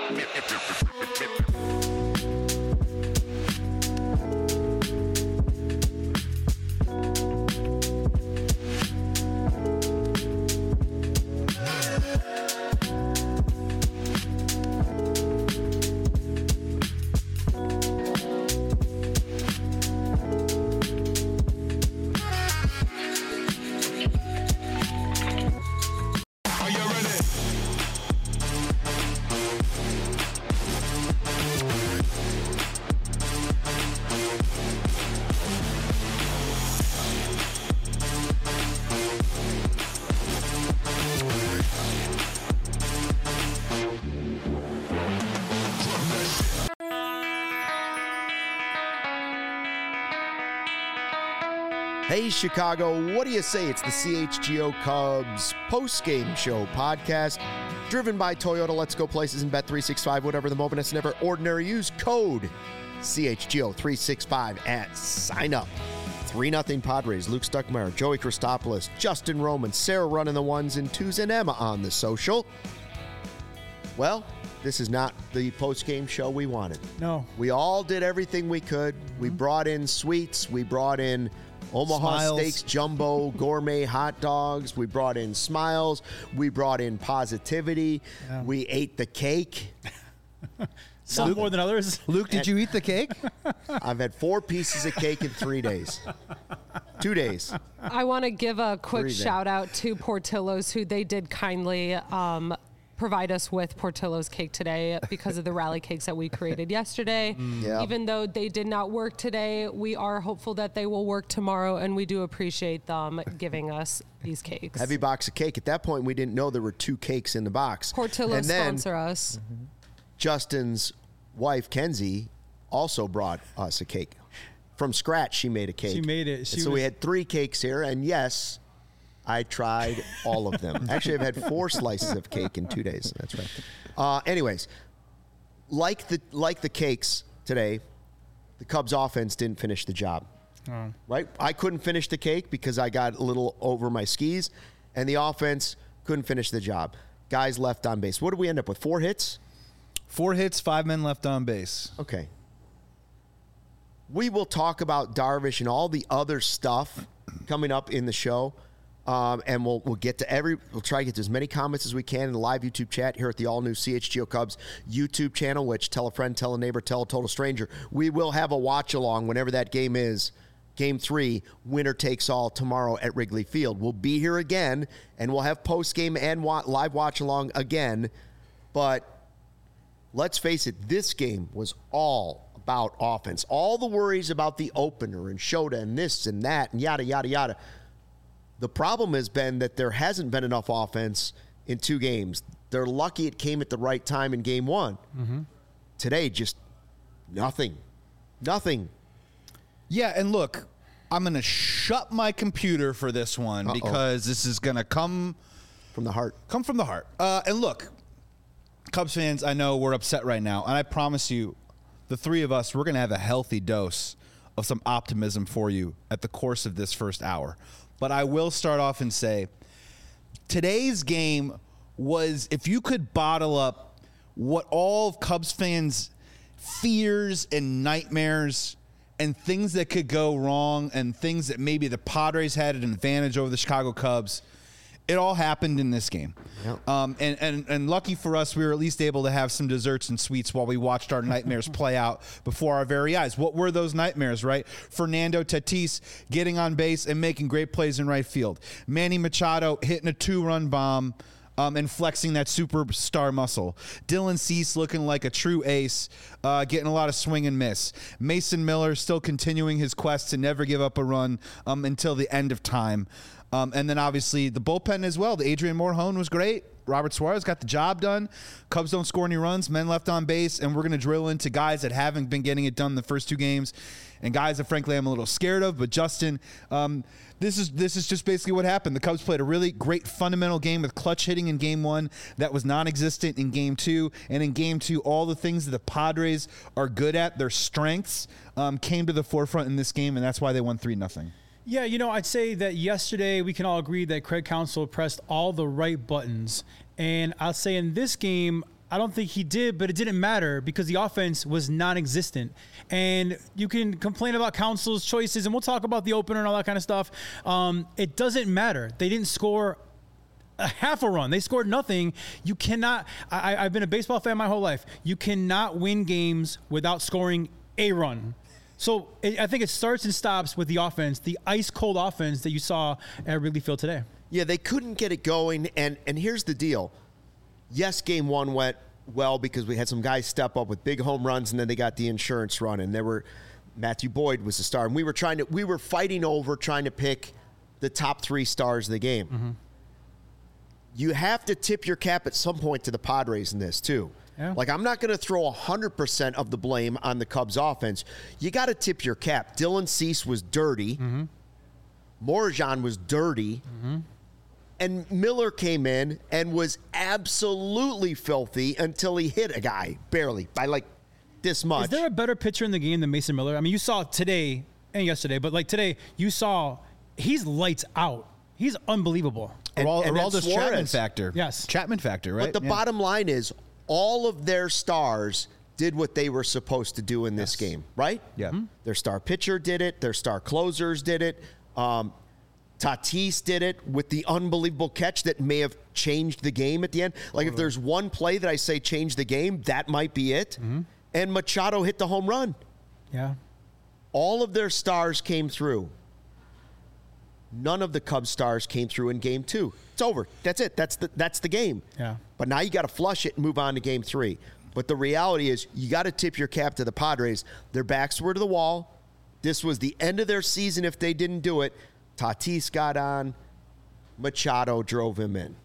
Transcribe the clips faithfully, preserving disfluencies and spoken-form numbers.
Hey, Chicago, what do you say? It's the C H G O Cubs post-game show podcast, driven by Toyota. Let's go places and bet three sixty-five, whatever the moment is never ordinary. Use code C H G O three sixty-five at sign up. three nothing Padres, Luke Stuckmeyer, Joey Christopoulos, Justin Roman, Sarah running the ones and twos, and Emma on the social. Well, this is not the post-game show we wanted. No. We all did everything we could. Mm-hmm. We brought in sweets. We brought in Omaha Smiles. Steaks, jumbo, gourmet hot dogs. We brought in smiles. We brought in positivity. Yeah. We ate the cake. Some Luke, more than others. Luke, did you eat the cake? I've had four pieces of cake in three days. Two days. I want to give a quick shout out to Portillo's, who they did kindly um, provide us with Portillo's cake today because of the rally cakes that we created yesterday. Mm, yeah. Even though they did not work today, we are hopeful that they will work tomorrow, and we do appreciate them giving us these cakes. Heavy box of cake. At that point, we didn't know there were two cakes in the box. Portillo's and then, sponsor us. Mm-hmm. Justin's wife, Kenzie, also brought us a cake. From scratch, she made a cake. She made it. She so was... we had three cakes here, and yes, I tried all of them. Actually, I've had four slices of cake in two days. That's right. Uh, anyways, like the like the cakes today, the Cubs offense didn't finish the job. Oh. Right? I couldn't finish the cake because I got a little over my skis, and the offense couldn't finish the job. Guys left on base. What did we end up with? Four hits? Four hits, five men left on base. Okay. We will talk about Darvish and all the other stuff coming up in the show. Um, and we'll we'll get to every we'll try to get to as many comments as we can in the live YouTube chat here at the all new C H G O Cubs YouTube channel, which tell a friend, tell a neighbor, tell a total stranger. We will have a watch along whenever that game is. Game three, winner takes all tomorrow at Wrigley Field. We'll be here again, and we'll have post game and wa- live watch along again. But let's face it, this game was all about offense. All the worries about the opener and Shota and this and that and yada yada yada. The problem has been that there hasn't been enough offense in two games. They're lucky it came at the right time in game one. Mm-hmm. Today, just nothing. Nothing. Yeah, and look, I'm going to shut my computer for this one Uh-oh. because this is going to come from the heart. Come from the heart. Uh, and look, Cubs fans, I know we're upset right now, and I promise you, the three of us, we're going to have a healthy dose of some optimism for you at the course of this first hour. But I will start off and say, today's game was, if you could bottle up what all Cubs fans' fears and nightmares and things that could go wrong and things that maybe the Padres had an advantage over the Chicago Cubs, it all happened in this game. Yep. Um, and, and, and lucky for us, we were at least able to have some desserts and sweets while we watched our nightmares play out before our very eyes. What were those nightmares, right? Fernando Tatis getting on base and making great plays in right field. Manny Machado hitting a two-run bomb um, and flexing that superstar muscle. Dylan Cease looking like a true ace, uh, getting a lot of swing and miss. Mason Miller still continuing his quest to never give up a run um, until the end of time. Um, and then obviously the bullpen as well. The Adrian Morejon was great. Robert Suarez got the job done. Cubs don't score any runs, men left on base, and we're going to drill into guys that haven't been getting it done the first two games and guys that frankly I'm a little scared of. But Justin, um, this is this is just basically what happened. The Cubs played a really great fundamental game with clutch hitting in game one that was non-existent in game two. And in game two, all the things that the Padres are good at, their strengths, um, came to the forefront in this game, and that's why they won three nothing. Yeah, you know, I'd say that yesterday we can all agree that Craig Counsell pressed all the right buttons. And I'll say in this game, I don't think he did, but it didn't matter because the offense was non-existent. And you can complain about Council's choices, and we'll talk about the opener and all that kind of stuff. Um, it doesn't matter. They didn't score a half a run. They scored nothing. You cannot. I, I've been a baseball fan my whole life. You cannot win games without scoring a run. So it, I think it starts and stops with the offense, the ice-cold offense that you saw at Wrigley Field today. Yeah, they couldn't get it going. And, and here's the deal. Yes, game one went well because we had some guys step up with big home runs, and then they got the insurance run. And there were Matthew Boyd was the star. And we were trying to we were fighting over trying to pick the top three stars of the game. Mm-hmm. You have to tip your cap at some point to the Padres in this, too. Yeah. Like, I'm not going to throw one hundred percent of the blame on the Cubs offense. You got to tip your cap. Dylan Cease was dirty. Mm-hmm. Morajan was dirty. Mm-hmm. And Miller came in and was absolutely filthy until he hit a guy, barely, by like this much. Is there a better pitcher in the game than Mason Miller? I mean, you saw today and yesterday, but like today, you saw he's lights out. He's unbelievable. And, Aral- and Araldus Suarez. Chapman factor. Yes. Chapman factor, right? But the Yeah. bottom line is all of their stars did what they were supposed to do in this Yes. game, right? Yeah. Mm-hmm. Their star pitcher did it. Their star closers did it. Um, Tatis did it with the unbelievable catch that may have changed the game at the end. Like, if there's one play that I say changed the game, that might be it. Mm-hmm. And Machado hit the home run. Yeah. All of their stars came through. None of the Cubs stars came through in game two. It's over. That's it. That's the that's the game. Yeah. But now you got to flush it and move on to game three. But the reality is you got to tip your cap to the Padres. Their backs were to the wall. This was the end of their season if they didn't do it. Tatis got on. Machado drove him in.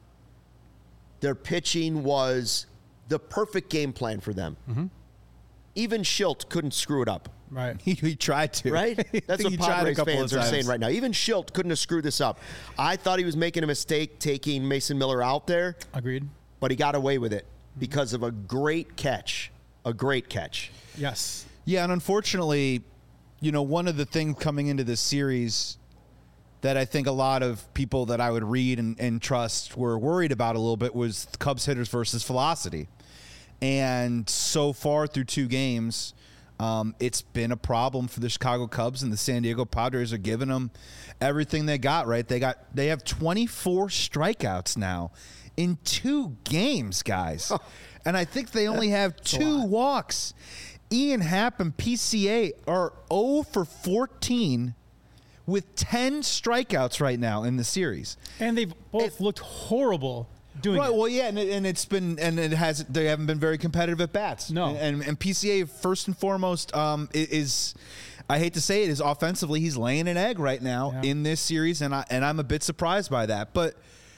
Their pitching was the perfect game plan for them. Mm-hmm. Even Schilt couldn't screw it up. Right. He, he tried to. Right? That's what He tried a Padres couple fans of are times. saying right now. Even Schilt couldn't have screwed this up. I thought he was making a mistake taking Mason Miller out there, Agreed. but he got away with it because of a great catch. A great catch. Yes. Yeah, and unfortunately, you know, one of the things coming into this series that I think a lot of people that I would read and, and trust were worried about a little bit was Cubs hitters versus velocity. And so far through two games, um, it's been a problem for the Chicago Cubs, and the San Diego Padres are giving them everything they got, right? They got they have twenty-four strikeouts now in two games, guys. And I think they only have two walks. Ian Happ and P C A are oh for fourteen with ten strikeouts right now in the series. And they've both looked horrible doing Right, it. well, yeah, and, it, and it's been, and it has, they haven't been very competitive at bats. No. And, and, and P C A, first and foremost, um, i- is, I hate to say it, is offensively, he's laying an egg right now Yeah. in this series, and, I, and I'm a bit surprised by that. But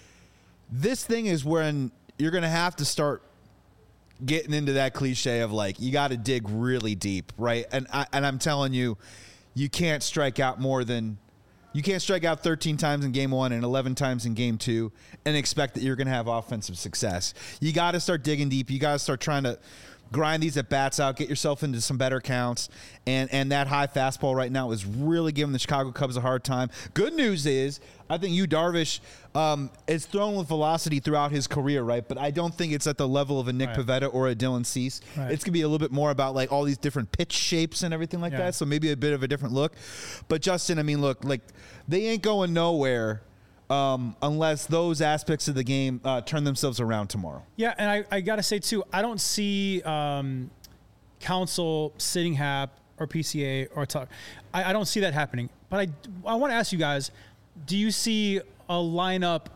this thing is when you're going to have to start getting into that cliche of like, you got to dig really deep, right? And I, and I'm telling you, you can't strike out more than you can't strike out thirteen times in game one and eleven times in game two and expect that you're going to have offensive success. You got to start digging deep. You got to start trying to grind these at bats out, get yourself into some better counts. And and that high fastball right now is really giving the Chicago Cubs a hard time. Good news is, I think Yu Darvish um, is thrown with velocity throughout his career, right? But I don't think it's at the level of a Nick Right. Pivetta or a Dylan Cease. Right. It's going to be a little bit more about like all these different pitch shapes and everything like Yeah. that. So maybe a bit of a different look. But Justin, I mean, look, like they ain't going nowhere um, unless those aspects of the game uh, turn themselves around tomorrow. Yeah, and I, I got to say, too, I don't see um, Council sitting Hap or P C A or Tuck. I, I don't see that happening. But I, I want to ask you guys, do you see a lineup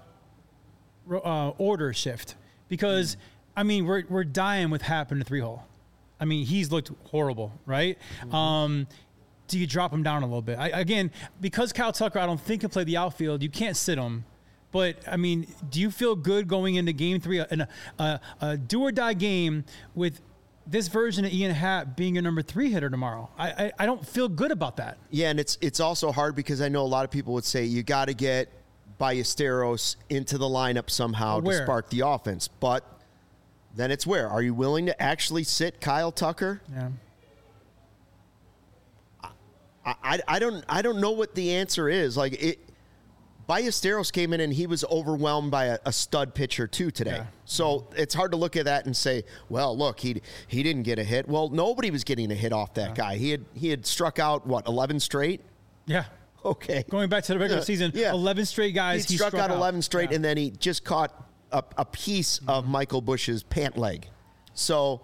uh, order shift? Because, I mean, we're, we're dying with Hap in the three-hole. I mean, he's looked horrible, right? Mm-hmm. Um, do you drop him down a little bit? I, again, because Kyle Tucker, I don't think can play the outfield, you can't sit him. But, I mean, do you feel good going into game three, in a, a, a do-or-die game with this version of Ian Happ being your number three hitter tomorrow? I, I, I don't feel good about that. Yeah, and it's it's also hard because I know a lot of people would say you got to get Ballesteros into the lineup somehow Where? to spark the offense. But then it's where? Are you willing to actually sit Kyle Tucker? Yeah. I, I, I don't I don't know what the answer is. Like it Ballesteros came in and he was overwhelmed by a, a stud pitcher too today. Yeah. So it's hard to look at that and say, well, look, he he didn't get a hit. Well, nobody was getting a hit off that Yeah. guy. He had he had struck out what eleven straight. Yeah. Okay. Going back to the regular Yeah. season, Yeah. eleven straight guys. He He struck, out eleven straight, Yeah. and then he just caught a, a piece Mm-hmm. of Michael Busch's pant leg. So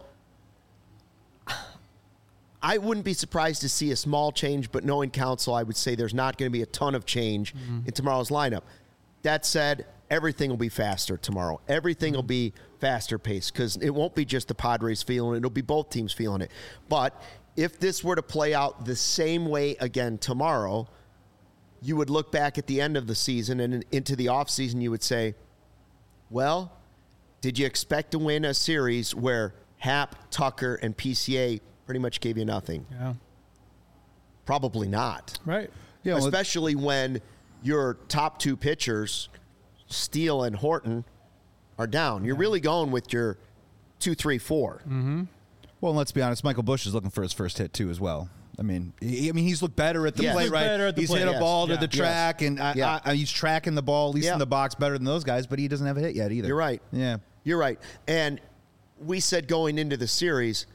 I wouldn't be surprised to see a small change, but knowing Counsell, I would say there's not going to be a ton of change Mm-hmm. in tomorrow's lineup. That said, everything will be faster tomorrow. Everything Mm-hmm. will be faster paced because it won't be just the Padres feeling it. It'll be both teams feeling it. But if this were to play out the same way again tomorrow, you would look back at the end of the season and into the offseason, you would say, well, did you expect to win a series where Happ, Tucker, and P C A pretty much gave you nothing? Yeah. Probably not. Right. Yeah, well, Especially when your top two pitchers, Steele and Horton, are down. You're really going with your two, three, four. Mm-hmm. Well, let's be honest. Michael Busch is looking for his first hit too, as well. I mean, he, I mean, he's looked better at the Yes. plate, He's right? better at the he's plate, hit a yes. ball Yeah. to the track, and I, Yeah. I, I, he's tracking the ball at least Yeah. in the box better than those guys. But he doesn't have a hit yet either. You're right. Yeah. You're right. And we said going into the series,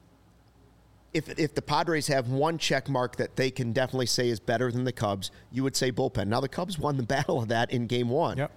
if if the Padres have one check mark that they can definitely say is better than the Cubs, you would say bullpen. Now, the Cubs won the battle of that in game one. Yep.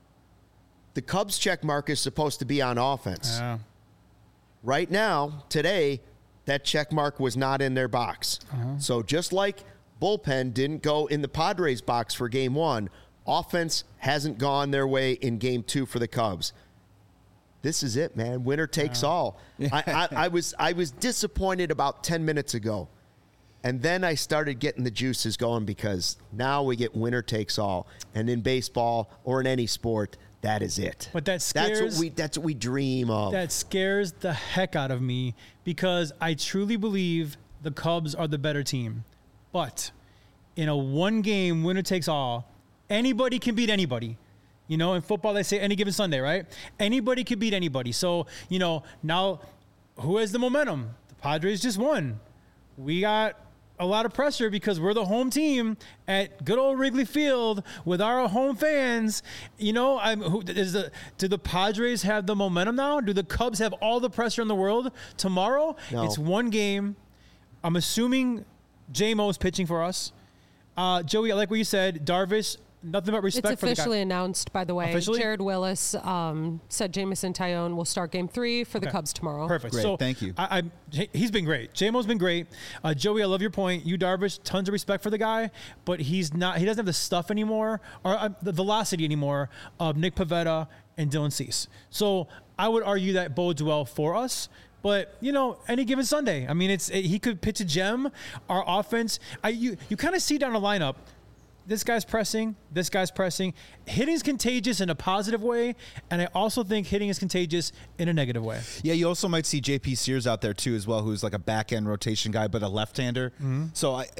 The Cubs check mark is supposed to be on offense. Yeah. Right now, today, that check mark was not in their box. So just like bullpen didn't go in the Padres box for game one, offense hasn't gone their way in game two for the Cubs. This is it, man. Winner takes all. I, I, I was I was disappointed about ten minutes ago. And then I started getting the juices going because now we get winner takes all. And in baseball or in any sport, that is it. But that that's scares- what we that's what we dream of. That scares the heck out of me because I truly believe the Cubs are the better team. But in a one game winner takes all, anybody can beat anybody. You know, in football, they say any given Sunday, right? Anybody can beat anybody. So, you know, now who has the momentum? The Padres just won. We got a lot of pressure because we're the home team at good old Wrigley Field with our home fans. You know, I'm who is the do the Padres have the momentum now? Do the Cubs have all the pressure in the world tomorrow? No. It's one game. I'm assuming J-Mo is pitching for us. Uh, Joey, I like what you said. Darvish, nothing but respect It's for the guy. officially announced, by the way. Officially? Jared Willis um, said Jamison Tyone will start game three for the Okay. Cubs tomorrow. Perfect. Great, So thank you. I, I, he- he's been great. J-Mo's been great. Uh, Joey, I love your point. You, Darvish, tons of respect for the guy, but he's not. He doesn't have the stuff anymore, or uh, the velocity anymore of Nick Pivetta and Dylan Cease. So I would argue that bodes well for us. But you know, any given Sunday, I mean, it's it, he could pitch a gem. Our offense, I you you kind of see down the lineup. This guy's pressing. This guy's pressing. Hitting is contagious in a positive way, and I also think hitting is contagious in a negative way. Yeah, you also might see J P Sears out there too, as well, who's like a back end rotation guy, but a left-hander. Mm-hmm. So I,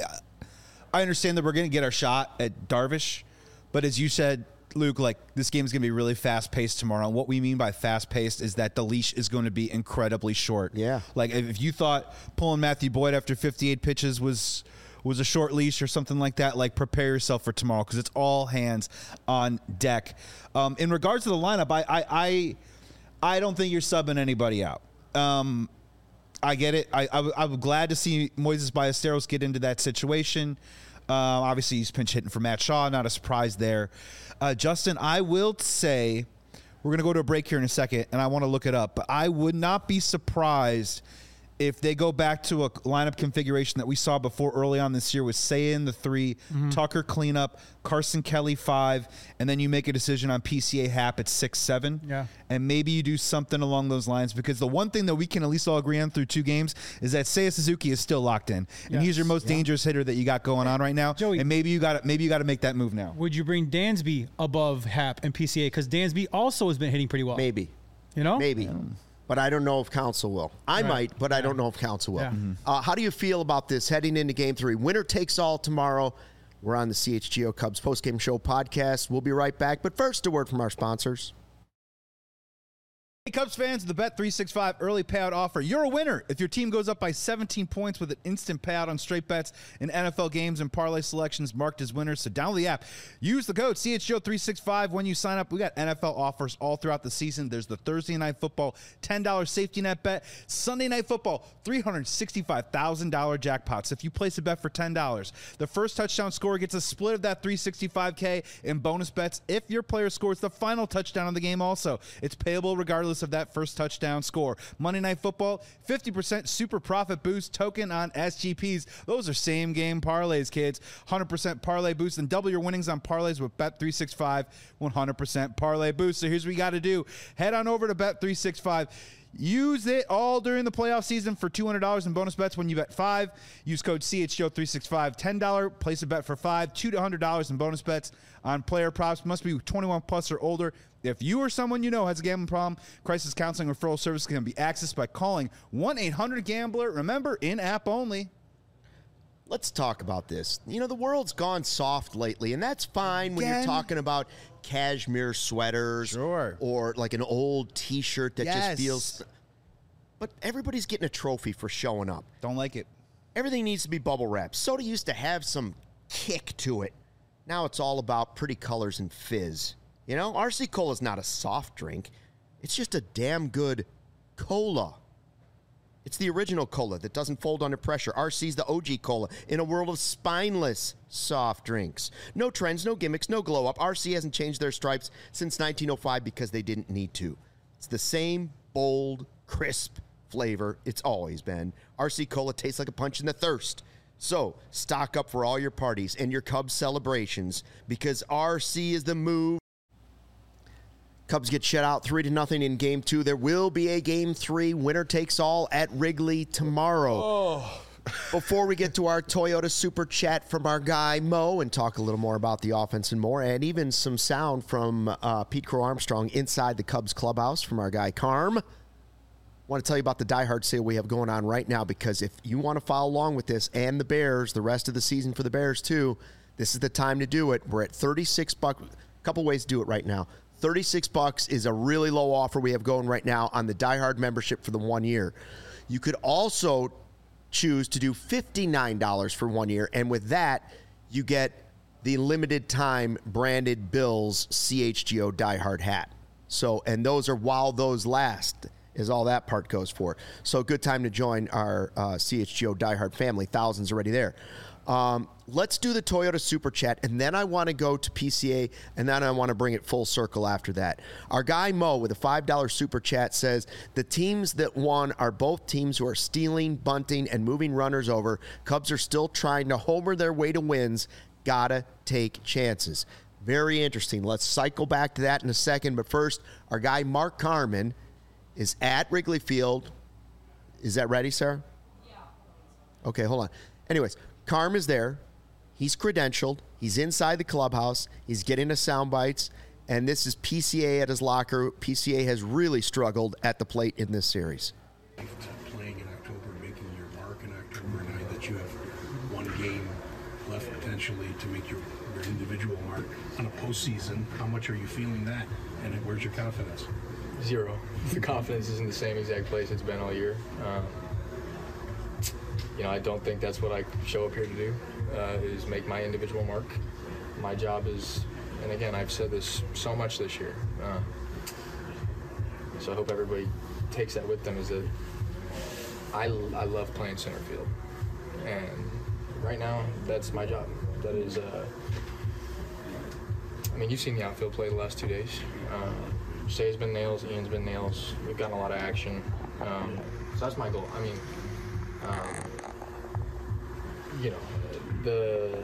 I understand that we're going to get our shot at Darvish, but as you said, Luke, like this game is going to be really fast-paced tomorrow. And what we mean by fast-paced is that the leash is going to be incredibly short. Yeah. Like if if you thought pulling Matthew Boyd after fifty-eight pitches was was a short leash or something like that, like prepare yourself for tomorrow because it's all hands on deck. Um, in regards to the lineup, I, I I I don't think you're subbing anybody out. Um, I get it. I, I I'm glad to see Moises Ballesteros get into that situation. Uh, obviously, he's pinch hitting for Matt Shaw. Not a surprise there. Uh, Justin, I will say we're going to go to a break here in a second, and I want to look it up. But I would not be surprised if they go back to a lineup configuration that we saw before early on this year with Seiya in the three, Mm-hmm. Tucker cleanup, Carson Kelly five, and then you make a decision on P C A Happ at six, seven. Yeah. And maybe you do something along those lines because the one thing that we can at least all agree on through two games is that Seiya Suzuki is still locked in, and Yes. he's your most dangerous hitter that you got going on right now. Joey- and maybe you got maybe you got to make that move now. Would you bring Dansby above Happ and P C A? Because Dansby also has been hitting pretty well. Maybe. You know? Maybe. But I don't know if Counsell will. I Right. might, but I don't know if Counsell will. Yeah. Mhm. Uh, how do you feel about this heading into game three? Winner takes all tomorrow. We're on the C H G O Cubs postgame show podcast. We'll be right back. But first, a word from our sponsors. Cubs fans, the Bet three sixty-five early payout offer. You're a winner if your team goes up by seventeen points with an instant payout on straight bets in N F L games and parlay selections marked as winners. So download the app. Use the code C H G O three sixty-five when you sign up. We got N F L offers all throughout the season. There's the Thursday Night Football ten dollars safety net bet. Sunday Night Football three hundred sixty-five thousand dollars jackpots. If you place a bet for ten dollars, the first touchdown scorer gets a split of that three hundred sixty-five K in bonus bets if your player scores the final touchdown of the game also. It's payable regardless of that first touchdown score. Monday Night Football, fifty percent super profit boost token on S G Ps. Those are same game parlays, kids. one hundred percent parlay boost and double your winnings on parlays with Bet three sixty-five one hundred percent parlay boost. So here's what you got to do. Head on over to Bet three sixty-five. Use it all during the playoff season for two hundred dollars in bonus bets when you bet five. Use code C H G O three sixty-five, ten dollars. Place a bet for five, two hundred dollars in bonus bets on player props. Must be twenty-one plus or older. If you or someone you know has a gambling problem, crisis counseling referral service can be accessed by calling one eight hundred gambler. Remember, in-app only. Let's talk about this. You know, the world's gone soft lately, and that's fine when Again? you're talking about cashmere sweaters Sure. or like an old T-shirt that Yes. just feels... But everybody's getting a trophy for showing up. Don't like it. Everything needs to be bubble wrapped. Soda used to have some kick to it. Now it's all about pretty colors and fizz. You know, R C Cola's not a soft drink. It's just a damn good cola. It's the original cola that doesn't fold under pressure. R C's the O G cola in a world of spineless soft drinks. No trends, no gimmicks, no glow up. R C hasn't changed their stripes since nineteen oh five because they didn't need to. It's the same bold, crisp flavor it's always been. R C Cola tastes like a punch in the thirst. So stock up for all your parties and your Cubs celebrations because R C is the move. Cubs get shut out three to nothing in game two. There will be a game three. Winner takes all at Wrigley tomorrow. Oh. Before we get to our Toyota Super Chat from our guy Mo and talk a little more about the offense and more, and even some sound from uh, Pete Crow Armstrong inside the Cubs clubhouse from our guy Carm. I want to tell you about the Die Hard sale we have going on right now because if you want to follow along with this and the Bears, the rest of the season for the Bears too, this is the time to do it. We're at thirty-six bucks. A couple ways to do it right now. thirty-six bucks is a really low offer we have going right now on the Die Hard membership for the one year. You could also choose to do fifty-nine dollars for one year, and with that, you get the limited time branded Bills C H G O Die Hard hat. So, and those are while those last, is all that part goes for. So, good time to join our uh, C H G O Die Hard family. Thousands already there. Um, let's do the Toyota Super Chat, and then I want to go to P C A, and then I want to bring it full circle after that. Our guy Mo with a five dollars Super Chat says, the teams that won are both teams who are stealing, bunting, and moving runners over. Cubs are still trying to homer their way to wins. Gotta take chances. Very interesting. Let's cycle back to that in a second, but first, our guy Mark Carman is at Wrigley Field. Is that ready, Sarah? Yeah. Okay, hold on. Anyways, Carm is there. He's credentialed. He's inside the clubhouse. He's getting us sound bites. And this is P C A at his locker. P C A has really struggled at the plate in this series. Playing in October, making your mark in October, now that you have one game left potentially to make your, your individual mark on a postseason, how much are you feeling that? And where's your confidence? Zero. The confidence is in the same exact place it's been all year. Um, you know, I don't think that's what I show up here to do, uh, is make my individual mark. My job is, and again, I've said this so much this year, uh, so I hope everybody takes that with them, is that I, I love playing center field. And right now, that's my job. That is, uh, I mean, you've seen the outfield play the last two days. Uh, Shay's been nails, Ian's been nails. We've gotten a lot of action. Um, so that's my goal. I mean, um, you know, the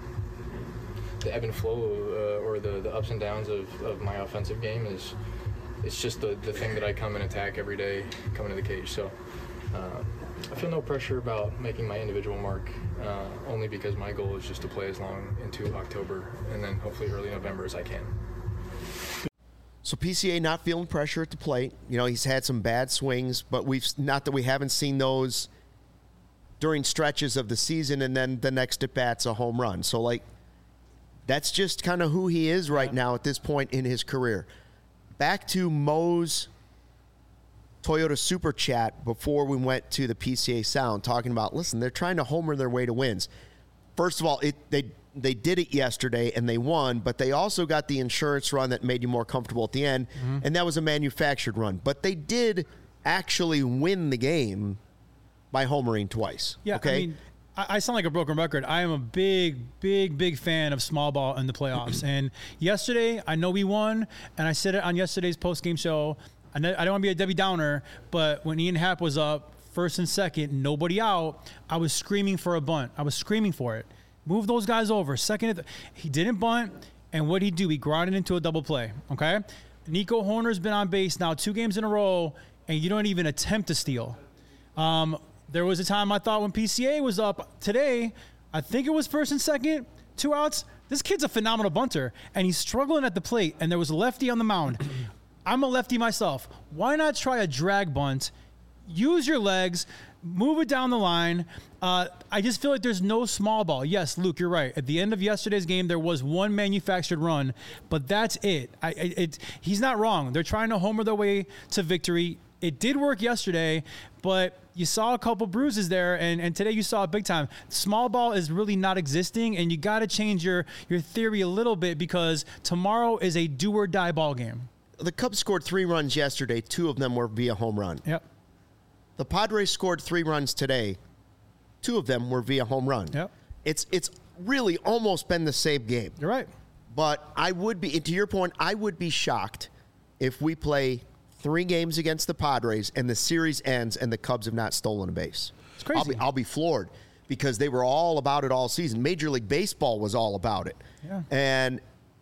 the ebb and flow uh, or the, the ups and downs of, of my offensive game is it's just the, the thing that I come and attack every day coming to the cage. So uh, I feel no pressure about making my individual mark, uh, only because my goal is just to play as long into October and then hopefully early November as I can. So P C A not feeling pressure at the plate. You know, he's had some bad swings, but we've not that we haven't seen those during stretches of the season, and then the next at bat's a home run. So like, that's just kind of who he is right now at this point in his career. Back to Mo's Toyota Super Chat before we went to the P C A Sound talking about, listen, they're trying to homer their way to wins. First of all, it they they did it yesterday and they won, but they also got the insurance run that made you more comfortable at the end, mm-hmm. and that was a manufactured run. But they did actually win the game by homering twice. Yeah, okay? I mean, I sound like a broken record. I am a big, big, big fan of small ball in the playoffs. And yesterday, I know we won, and I said it on yesterday's post-game show. I don't want to be a Debbie Downer, but when Ian Happ was up first and second, nobody out, I was screaming for a bunt. I was screaming for it. Move those guys over. Second, th- he didn't bunt, and what'd he do? He grounded into a double play, okay? Nico Hoerner's been on base now two games in a row, and you don't even attempt to steal. Um... There was a time I thought when P C A was up today, I think it was first and second, two outs. This kid's a phenomenal bunter, and he's struggling at the plate, and there was a lefty on the mound. I'm a lefty myself. Why not try a drag bunt? Use your legs, move it down the line. Uh, I just feel like there's no small ball. Yes, Luke, you're right. At the end of yesterday's game, there was one manufactured run, but that's it. I, it, it he's not wrong. They're trying to homer their way to victory. It did work yesterday, but you saw a couple bruises there, and, and today you saw it big time. Small ball is really not existing, and you got to change your, your theory a little bit because tomorrow is a do-or-die ball game. The Cubs scored three runs yesterday. Two of them were via home run. Yep. The Padres scored three runs today. Two of them were via home run. Yep. It's it's really almost been the same game. You're right. But I would be, to your point, I would be shocked if we play three games against the Padres and the series ends and the Cubs have not stolen a base. It's crazy. I'll be, I'll be floored because they were all about it all season. Major League Baseball was all about it. Yeah. And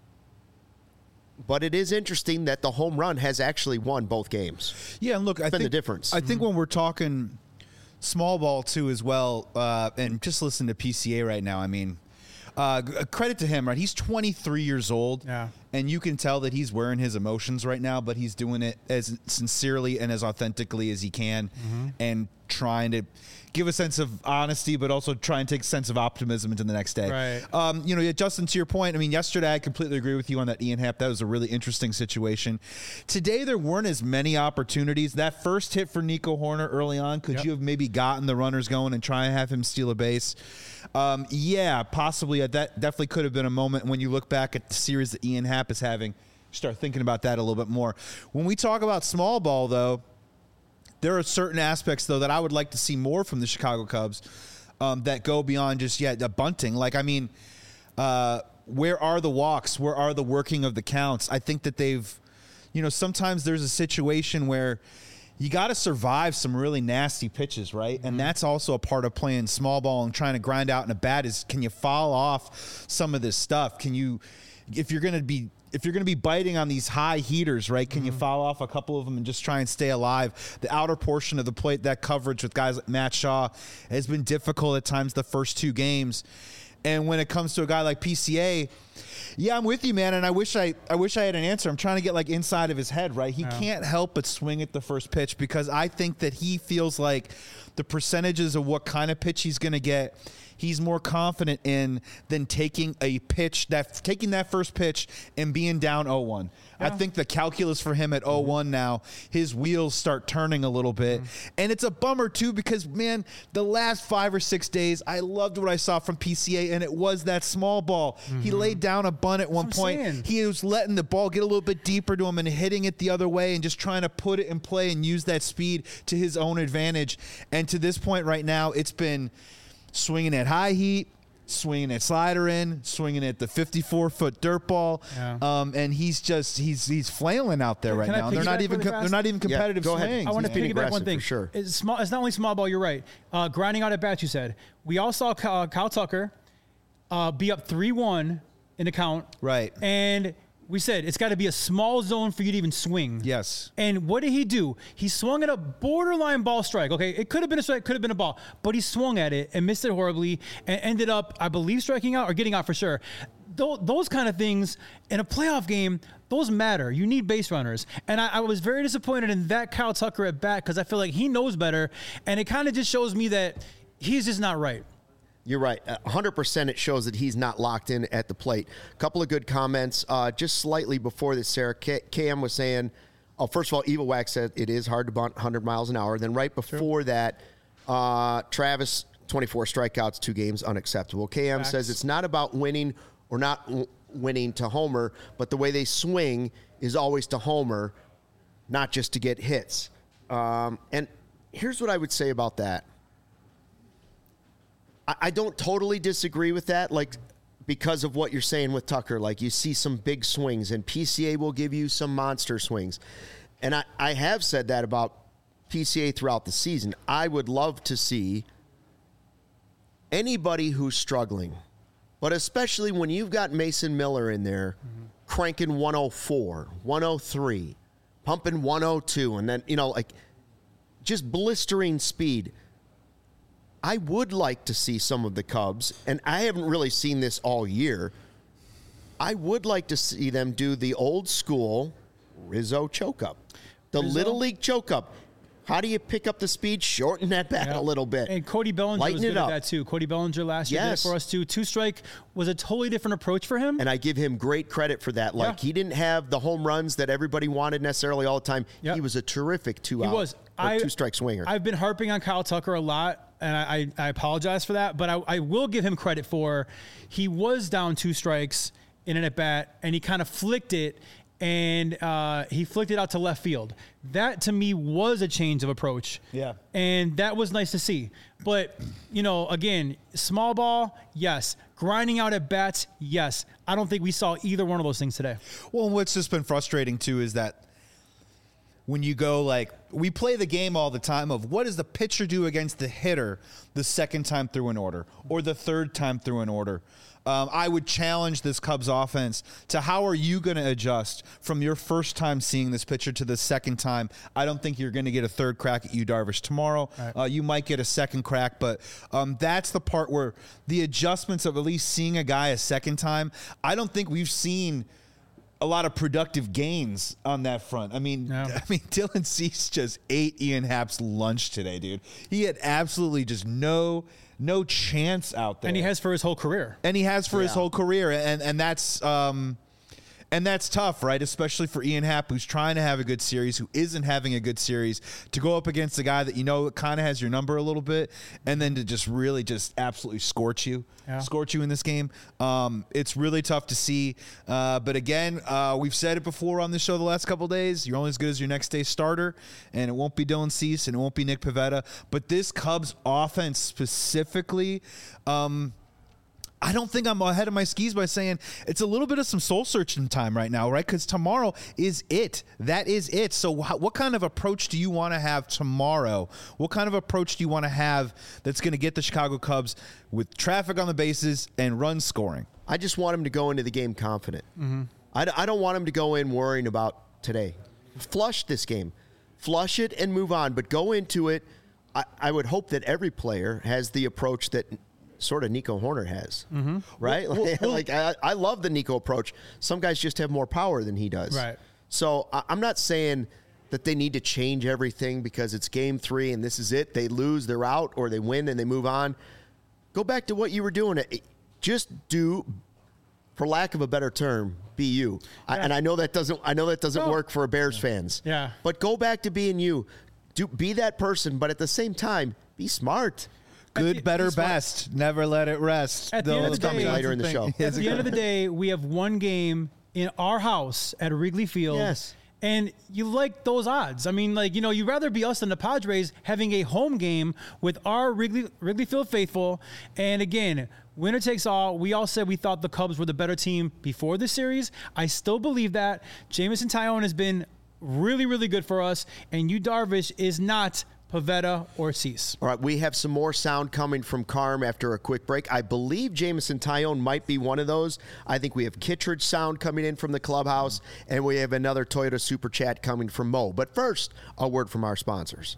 but it is interesting that the home run has actually won both games. Yeah, and look, it's I been think the difference. I think mm-hmm. when we're talking small ball too as well, uh, and just listen to P C A right now. I mean, uh, credit to him, right? He's twenty-three years old, yeah, and you can tell that he's wearing his emotions right now, but he's doing it as sincerely and as authentically as he can, mm-hmm. and trying to give a sense of honesty, but also try and take a sense of optimism into the next day. Right. Um, you know, Justin, to your point, I mean, yesterday I completely agree with you on that Ian Happ. That was a really interesting situation. Today there weren't as many opportunities. That first hit for Nico Hoerner early on, could yep. you have maybe gotten the runners going and try and have him steal a base? Um, yeah, possibly. That definitely could have been a moment when you look back at the series that Ian Happ is having. Start thinking about that a little bit more. When we talk about small ball, though, there are certain aspects, though, that I would like to see more from the Chicago Cubs um, that go beyond just, yeah, the bunting. Like, I mean, uh, where are the walks? Where are the working of the counts? I think that they've, you know, sometimes there's a situation where you got to survive some really nasty pitches, right? Mm-hmm. And that's also a part of playing small ball and trying to grind out in a bat is, can you fall off some of this stuff? Can you, if you're going to be, If you're going to be biting on these high heaters, right, can mm-hmm. you foul off a couple of them and just try and stay alive? The outer portion of the plate, that coverage with guys like Matt Shaw has been difficult at times the first two games. And when it comes to a guy like P C A, yeah, I'm with you, man, and I wish I I wish I had an answer. I'm trying to get, like, inside of his head, right? He yeah. can't help but swing at the first pitch because I think that he feels like the percentages of what kind of pitch he's going to get, he's more confident in than taking a pitch, that taking that first pitch and being down oh one. Yeah. I think the calculus for him at oh one now, his wheels start turning a little bit. Mm-hmm. And it's a bummer, too, because, man, the last five or six days, I loved what I saw from P C A, and it was that small ball. Mm-hmm. He laid down a bunt at one point. Saying. He was letting the ball get a little bit deeper to him and hitting it the other way and just trying to put it in play and use that speed to his own advantage. And to this point right now, it's been swinging at high heat, swinging at slider in, swinging at the fifty-four foot dirt ball, yeah. um, and he's just he's he's flailing out there right now. They're not even really they're not even competitive yeah, go swings. Ahead. I want to piggyback one thing. For sure. It's small. It's not only small ball. You're right. Uh, grinding out at bats. You said we all saw Kyle, Kyle Tucker uh, be up three one in the count. Right. And we said it's got to be a small zone for you to even swing. Yes. And what did he do? He swung at a borderline ball strike. Okay, it could have been a strike, could have been a ball, but he swung at it and missed it horribly and ended up, I believe, striking out or getting out for sure. Th- those kind of things in a playoff game, those matter. You need base runners. And I, I was very disappointed in that Kyle Tucker at bat because I feel like he knows better, and it kind of just shows me that he's just not right. You're right. one hundred percent it shows that he's not locked in at the plate. A couple of good comments. Uh, just slightly before this, Sarah, K- Cam was saying Oh, first of all, Evil Wax said it is hard to bunt one hundred miles an hour. Then right before that, uh, Travis, twenty-four strikeouts, two games, unacceptable. K M Facts. says it's not about winning or not w- winning to homer, but the way they swing is always to homer, not just to get hits. Um, and here's what I would say about that. I, I don't totally disagree with that, like because of what you're saying with Tucker. Like you see some big swings, and P C A will give you some monster swings. And I, I have said that about P C A throughout the season. I would love to see anybody who's struggling, but especially when you've got Mason Miller in there mm-hmm. cranking one oh four, one oh three, pumping one oh two, and then, you know, like just blistering speed. I would like to see some of the Cubs, and I haven't really seen this all year. I would like to see them do the old school Rizzo choke-up, the Rizzo? Little League choke-up. How do you pick up the speed, shorten that bat Yeah. a little bit? And Cody Bellinger Lighten was it good up. at that too. Cody Bellinger last year Yes. did it for us too. Two strike was a totally different approach for him. And I give him great credit for that. Like, Yeah. he didn't have the home runs that everybody wanted necessarily all the time. Yep. He was a terrific two He out, was. or I, two-strike swinger. I've been harping on Kyle Tucker a lot, and I, I, I apologize for that, but I, I will give him credit for he was down two strikes in an at-bat, and he kind of flicked it, and uh, he flicked it out to left field. That, to me, was a change of approach. Yeah. And that was nice to see. But, you know, again, small ball, yes. Grinding out at bats, yes. I don't think we saw either one of those things today. Well, what's just been frustrating, too, is that when you go, like, we play the game all the time of what does the pitcher do against the hitter the second time through an order or the third time through an order. Um, I would challenge this Cubs offense to how are you going to adjust from your first time seeing this pitcher to the second time. I don't think you're going to get a third crack at Yu Darvish tomorrow. Right. Uh, you might get a second crack, but um, that's the part where the adjustments of at least seeing a guy a second time, I don't think we've seen a lot of productive gains on that front. I mean, Yeah. I mean, Dylan Cease just ate Ian Happ's lunch today, dude. He had absolutely just no no chance out there, And he has for his whole career. and he has for his Yeah. whole career, and and that's um, and that's tough, right? Especially for Ian Happ, who's trying to have a good series, who isn't having a good series, to go up against a guy that you know kind of has your number a little bit, and then to just really just absolutely scorch you, Yeah. scorch you in this game. Um, it's really tough to see. Uh, but again, uh, we've said it before on this show the last couple of days. You're only as good as your next day starter, and it won't be Dylan Cease, and it won't be Nick Pivetta. But this Cubs offense specifically, um, I don't think I'm ahead of my skis by saying it's a little bit of some soul searching time right now, right? Because tomorrow is it. That is it. So wh- what kind of approach do you want to have tomorrow? What kind of approach do you want to have that's going to get the Chicago Cubs with traffic on the bases and run scoring? I just want him to go into the game confident. Mm-hmm. I, d- I don't want him to go in worrying about today. Flush this game. Flush it and move on. But go into it. I, I would hope that every player has the approach that sort of Nico Horner has, Mm-hmm. right? Like, like I, I love the Nico approach. Some guys just have more power than he does. Right. So I, I'm not saying that they need to change everything because it's game three and this is it. They lose, they're out, or they win and they move on. Go back to what you were doing. Just do, for lack of a better term, be you. I, Yeah. and I know that doesn't. I know that doesn't No. work for Bears fans. Yeah. But go back to being you. Do be that person, but at the same time, be smart. Good, the- better, this one- best. Never let it rest. At the end of Those the Tommy day- Johnson Later in the thing. show. At the end of the day, we have one game in our house at Wrigley Field. Yes. And you like those odds. I mean, like, you know, you'd rather be us than the Padres having a home game with our Wrigley, Wrigley Field faithful. And again, winner takes all. We all said we thought the Cubs were the better team before the series. I still believe that. Jameson Taillon has been really, really good for us. And Yu Darvish is not Pivetta or Cease. All right, we have some more sound coming from Carm after a quick break. I believe Jameson Taillon might be one of those. I think we have Kittredge sound coming in from the clubhouse, and we have another Toyota Super Chat coming from Mo. But first, a word from our sponsors.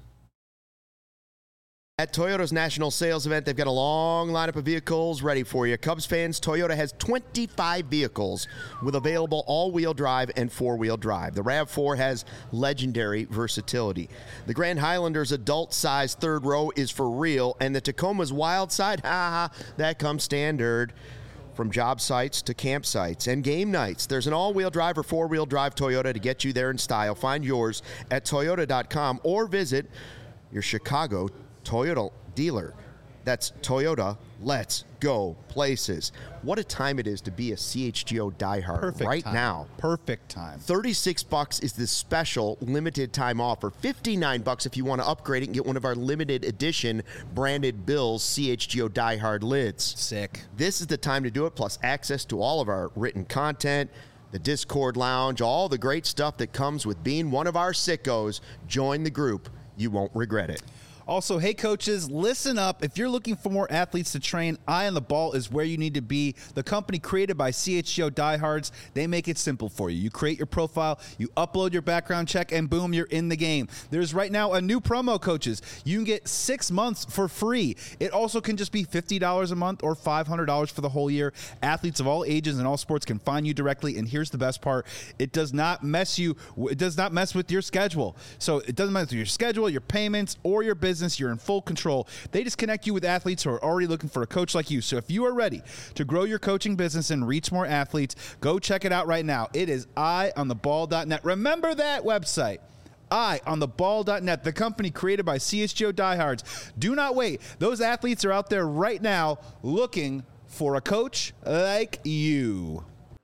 At Toyota's national sales event, they've got a long lineup of vehicles ready for you. Cubs fans, Toyota has twenty-five vehicles with available all-wheel drive and four-wheel drive. The RAV four has legendary versatility. The Grand Highlander's adult-sized third row is for real, and the Tacoma's wild side, ha ha, that comes standard. From job sites to campsites and game nights, there's an all-wheel drive or four-wheel drive Toyota to get you there in style. Find yours at toyota dot com or visit your Chicago Toyota dealer. That's Toyota. Let's go places. What a time it is to be a C H G O diehard Perfect right time. now. Perfect time. thirty-six bucks is the special limited time offer. fifty-nine bucks if you want to upgrade it and get one of our limited edition branded Bills C H G O diehard lids. Sick. This is the time to do it, plus access to all of our written content, the Discord lounge, all the great stuff that comes with being one of our sickos. Join the group. You won't regret it. Also, hey, coaches, listen up. If you're looking for more athletes to train, Eye on the Ball is where you need to be. The company created by C H G O diehards, they make it simple for you. You create your profile, you upload your background check, and boom, you're in the game. There's right now a new promo, coaches. You can get six months for free. It also can just be fifty dollars a month or five hundred dollars for the whole year. Athletes of all ages and all sports can find you directly, and here's the best part. It does not mess you, it does not mess with your schedule. So it doesn't mess with your schedule, your payments, or your business. You're in full control. They just connect you with athletes who are already looking for a coach like you. So if you are ready to grow your coaching business and reach more athletes, go check it out right now. It is eye on the ball dot net. Remember that website. eye on the ball dot net, the company created by C H G O diehards. Do not wait. Those athletes are out there right now looking for a coach like you.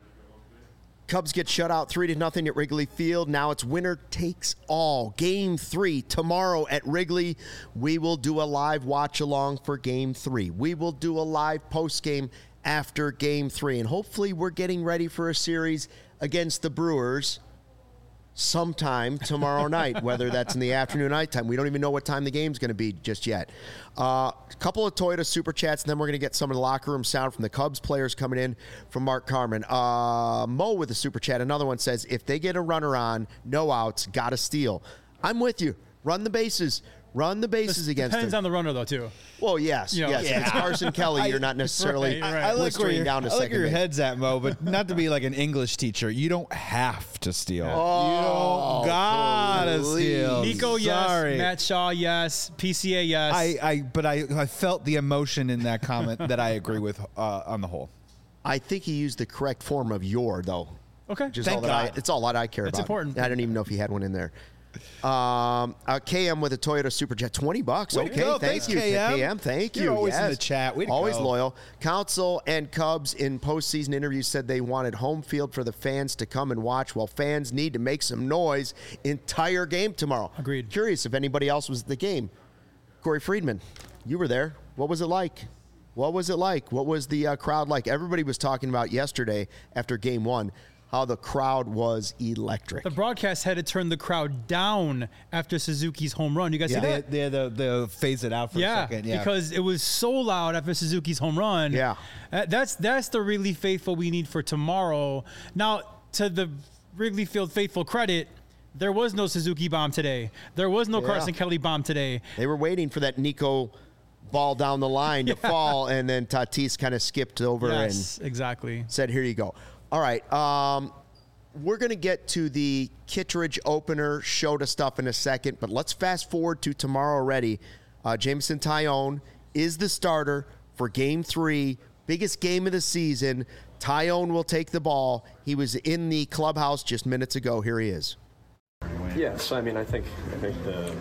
Cubs get shut out three to nothing at Wrigley Field. Now it's winner takes all. Game three tomorrow at Wrigley. We will do a live watch along for game three. We will do a live post game after game three. And hopefully we're getting ready for a series against the Brewers sometime tomorrow night, whether that's in the afternoon or nighttime. We don't even know what time the game's going to be just yet. Uh, a couple of Toyota Super Chats, and then we're going to get some of the locker room sound from the Cubs players coming in from Mark Carmen. Uh, Mo with a Super Chat. Another one says, if they get a runner on, no outs, got to steal. I'm with you. Run the bases. Run the bases This against depends them. on the runner, though, too. Well, yes. You know, yes. yeah. If it's Carson Kelly, you're not necessarily Right, right. I like where blistering your, down to I like second where your base. head's at, Mo, but not to be like an English teacher. You don't have to steal. Oh, you don't gotta please. steal. Nico, Sorry. yes. Matt Shaw, yes. P C A, yes. I, I, but I, I felt the emotion in that comment that I agree with uh, on the whole. I think he used the correct form of your, though. okay. Which is Thank all that I, God. it's all that I care That's about. important. I don't even know if he had one in there. Um, uh, K M with a Toyota Superjet, twenty bucks. Way to Okay, go. thank Thanks, you, K M. K M. Thank you. You're always in yes. the chat. Way to always go. loyal. Council and Cubs in postseason interviews said they wanted home field for the fans to come and watch. Well, fans need to make some noise entire game tomorrow. Agreed. Curious if anybody else was at the game. Corey Friedman, you were there. What was it like? What was it like? What was the uh, crowd like? Everybody was talking about yesterday after game one how the crowd was electric. The broadcast had to turn the crowd down after Suzuki's home run. You guys Yeah. see They, that? they had to, they phase it out for Yeah, a second. Yeah, because it was so loud after Suzuki's home run. Yeah. Uh, that's that's the Wrigley faithful we need for tomorrow. Now, to the Wrigley Field faithful credit, there was no Suzuki bomb today. There was no Yeah. Carson Kelly bomb today. They were waiting for that Nico ball down the line to fall, and then Tatis kind of skipped over Yes, exactly. and said, here you go. All right. Um, we're going to get to the Kittredge opener show to stuff in a second, but let's fast forward to tomorrow already. Uh, Jameson Taillon is the starter for game three, biggest game of the season. Taillon will take the ball. He was in the clubhouse just minutes ago. Here he is. Yeah, so I mean, I think I think the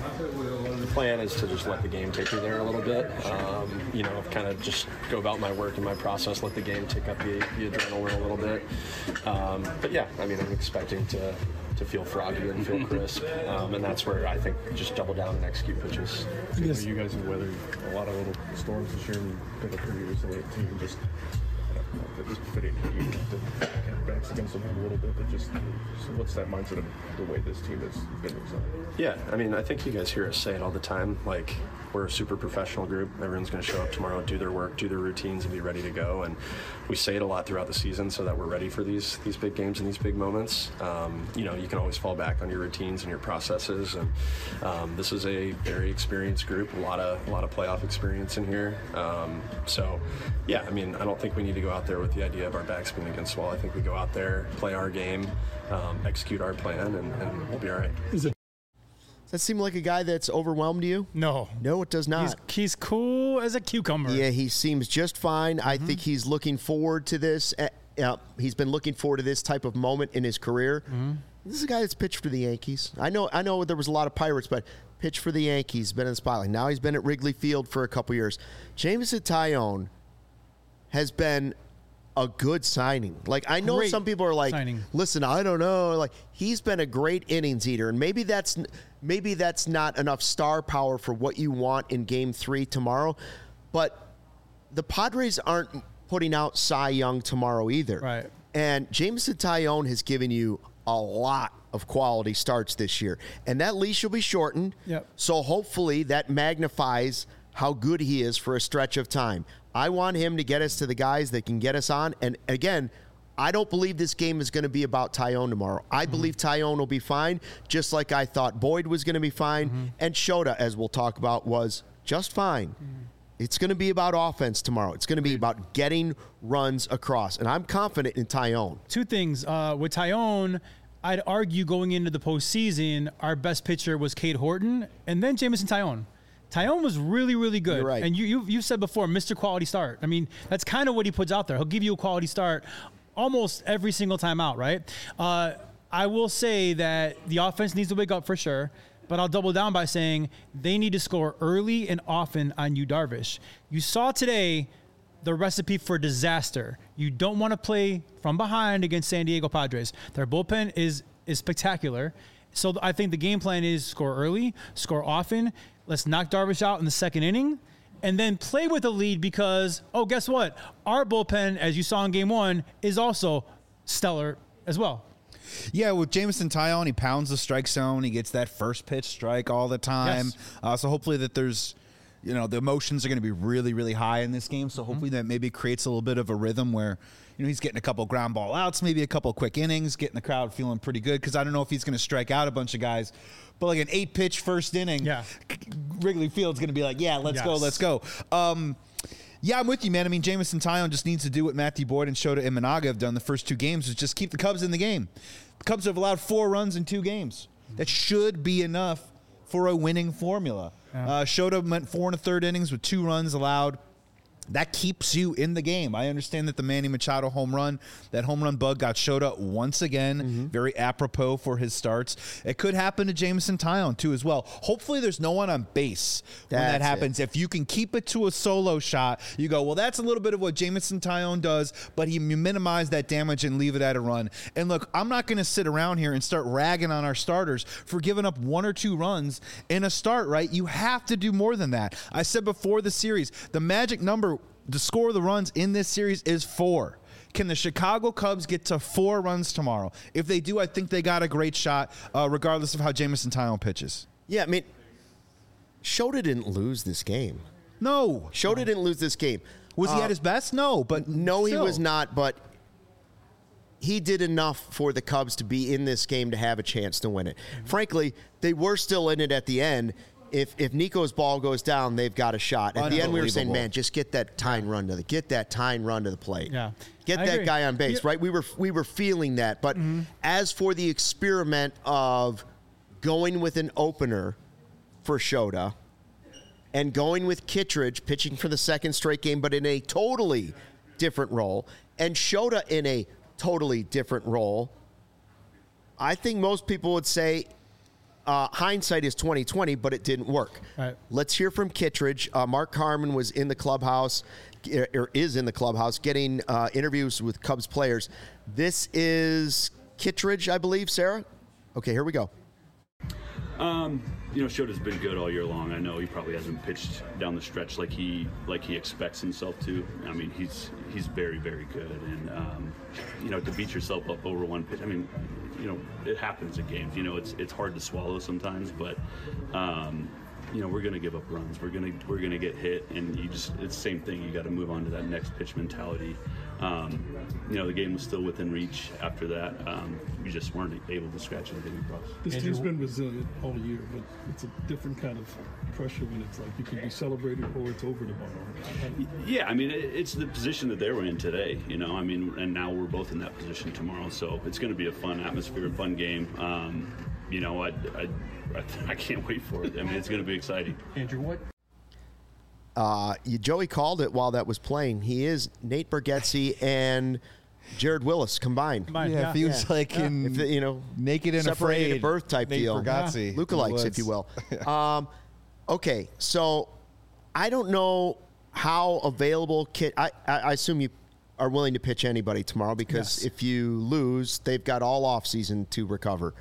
the plan is to just let the game take me there a little bit. Um, you know, kind of just go about my work and my process, let the game take up the, the adrenaline a little bit. Um, but yeah, I mean, I'm expecting to to feel froggy and feel crisp, um, and that's where I think just double down and execute pitches. You know, you guys have weathered a lot of little storms this year and been up pretty resilient team. Just I don't know if it's fitting for you to get backs against them a little bit, but just so what's that mindset of the way this team has been resilient? Yeah, I mean, I think you guys hear us say it all the time. Like, we're a super professional group. Everyone's going to show up tomorrow, do their work, do their routines, and be ready to go. And we say it a lot throughout the season so that we're ready for these these big games and these big moments. Um, you know, you can always fall back on your routines and your processes. And um, this is a very experienced group. A lot of a lot of playoff experience in here. Um, so, yeah, I mean, I don't think we need to go out there with the idea of our backs being against the wall. I think we go out there, play our game, um, execute our plan, and, and we'll be all right. It's that seem like a guy that's overwhelmed you? No. No, it does not. He's, he's cool as a cucumber. Yeah, he seems just fine. Mm-hmm. I think he's looking forward to this. Uh, uh, he's been looking forward to this type of moment in his career. Mm-hmm. This is a guy that's pitched for the Yankees. I know I know there was a lot of Pirates, but pitched for the Yankees, been in the spotlight. Now he's been at Wrigley Field for a couple years. Jameson Taillon has been a good signing. Like, I know Great some people are like, signing. listen, I don't know. Like, he's been a great innings eater, and maybe that's maybe that's not enough star power for what you want in Game Three tomorrow. But the Padres aren't putting out Cy Young tomorrow either. Right. And Jameson Taillon has given you a lot of quality starts this year, and that leash will be shortened. Yep. So hopefully that magnifies how good he is for a stretch of time. I want him to get us to the guys that can get us on. And again, I don't believe this game is going to be about Taillon tomorrow. I mm-hmm. believe Taillon will be fine, just like I thought Boyd was going to be fine. Mm-hmm. And Shota, as we'll talk about, was just fine. Mm-hmm. It's going to be about offense tomorrow. It's going to be about getting runs across. And I'm confident in Taillon. Two things. Uh, with Taillon, I'd argue going into the postseason, our best pitcher was Cade Horton and then Jameson Taillon. Taillon was really, really good. You're right. And you, you, you've said before, Mister Quality Start. I mean, that's kind of what he puts out there. He'll give you a quality start almost every single time out, right? Uh, I will say that the offense needs to wake up for sure, but I'll double down by saying they need to score early and often on Yu Darvish. You saw today the recipe for disaster. You don't want to play from behind against San Diego Padres. Their bullpen is is spectacular. So I think the game plan is score early, score often. Let's knock Darvish out in the second inning, and then play with a lead because, oh, guess what? Our bullpen, as you saw in game one, is also stellar as well. Yeah, with Jameson Taillon, he pounds the strike zone. He gets that first pitch strike all the time. Yes. Uh, so hopefully that there's, you know, the emotions are going to be really, really high in this game. So hopefully mm-hmm. that maybe creates a little bit of a rhythm where, you know, he's getting a couple ground ball outs, maybe a couple quick innings, getting the crowd feeling pretty good. Because I don't know if he's going to strike out a bunch of guys. But like an eight-pitch first inning, yeah. Wrigley Field's going to be like, yeah, let's yes. go, let's go. Um, yeah, I'm with you, man. I mean, Jameson Taillon just needs to do what Matthew Boyd and Shota Imanaga have done the first two games, is just keep the Cubs in the game. The Cubs have allowed four runs in two games. That should be enough for a winning formula. Yeah. Uh, Shota went four and a third innings with two runs allowed. That keeps you in the game. I understand that the Manny Machado home run, that home run bug got Shota once again, mm-hmm. very apropos for his starts. It could happen to Jameson Taillon, too, as well. Hopefully there's no one on base when that's that happens. It. If you can keep it to a solo shot, you go, well, that's a little bit of what Jameson Taillon does, but he minimize that damage and leave it at a run. And look, I'm not going to sit around here and start ragging on our starters for giving up one or two runs in a start, right? You have to do more than that. I said before the series, the magic number to score the runs in this series is four. Can the Chicago Cubs get to four runs tomorrow? If they do, I think they got a great shot, uh, regardless of how Jameson Taillon pitches. Yeah, I mean, Shota didn't lose this game. No. Shota didn't lose this game. Was uh, he at his best? No, but no, still. He was not, but he did enough for the Cubs to be in this game to have a chance to win it. Mm-hmm. Frankly, they were still in it at the end. If if Nico's ball goes down, they've got a shot. At the end, we were saying, man, just get that tying run to the get that tying run to the plate. Yeah, get I that agree. guy on base, yeah. right? We were we were feeling that. But mm-hmm. as for the experiment of going with an opener for Shota and going with Kittredge pitching for the second straight game, but in a totally different role, and Shota in a totally different role, I think most people would say, Uh, hindsight is twenty twenty, but it didn't work. Right. Let's hear from Kittredge. Uh, Mark Carman was in the clubhouse, or is in the clubhouse, getting uh, interviews with Cubs players. This is Kittredge, I believe, Sarah? Okay, here we go. Um, you know, Shota's been good all year long. I know he probably hasn't pitched down the stretch like he like he expects himself to. I mean, he's he's very, very good. And, um, you know, to beat yourself up over one pitch, I mean, you know, it happens in games. You know, it's it's hard to swallow sometimes, but um, you know, we're gonna give up runs. We're gonna we're gonna get hit, and you just it's the same thing. You got to move on to that next pitch mentality. Um, you know, the game was still within reach after that. Um, we just weren't able to scratch anything across. This team's been resilient all year, but it's a different kind of pressure when it's like you can be celebrated or it's over tomorrow. Yeah, I mean, it's the position that they were in today, you know, I mean, and now we're both in that position tomorrow, so it's going to be a fun atmosphere, a fun game. Um, you know, I, I, I can't wait for it. I mean, it's going to be exciting. Andrew, what? Uh, you, Joey called it while that was playing. He is Nate Bargatze and Jared Willis combined. Combined, Yeah, yeah. if he was Yeah. like Yeah. in If the- you know, Naked and separated Afraid, at birth type Nate deal. Bargatze. Lookalikes, if you will. um, okay, so I don't know how available Kit. I, I, I assume you are willing to pitch anybody tomorrow because Yes. if you lose, they've got all off season to recover.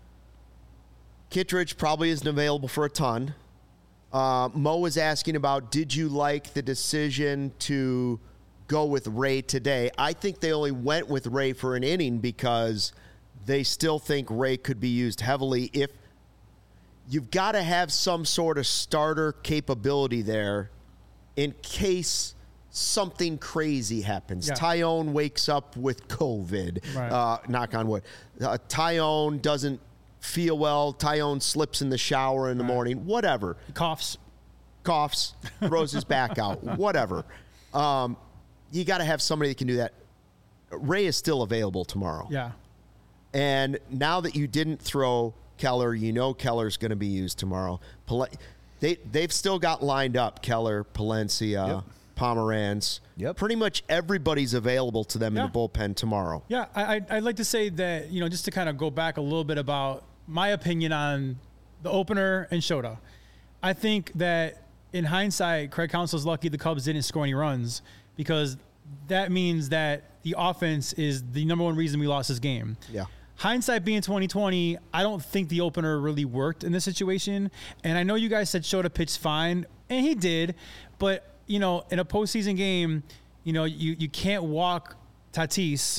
Kittredge probably isn't available for a ton. Uh, Mo was asking about, did you like the decision to go with Ray today? I think they only went with Ray for an inning because they still think Ray could be used heavily. If you've got to have some sort of starter capability there in case something crazy happens. Yeah. Tyone wakes up with COVID. Right. Uh, knock on wood. Uh, Tyone doesn't feel well. Tyone slips in the shower in the Right. morning. Whatever. Coughs. Coughs, throws his back out, whatever. Um, you got to have somebody that can do that. Ray is still available tomorrow. Yeah. And now that you didn't throw Keller, you know Keller's going to be used tomorrow. Pal- they, they've still got lined up Keller, Palencia, Yep. Pomeranz. Yep. Pretty much everybody's available to them Yeah. in the bullpen tomorrow. Yeah, I, I'd, I'd like to say that, you know, just to kind of go back a little bit about my opinion on the opener and Shota. I think that in hindsight, Craig Counsell's lucky the Cubs didn't score any runs because that means that the offense is the number one reason we lost this game. Yeah. Hindsight being twenty twenty, I don't think the opener really worked in this situation. And I know you guys said Shota pitched fine, and he did, but you know, in a postseason game, you know, you, you can't walk Tatis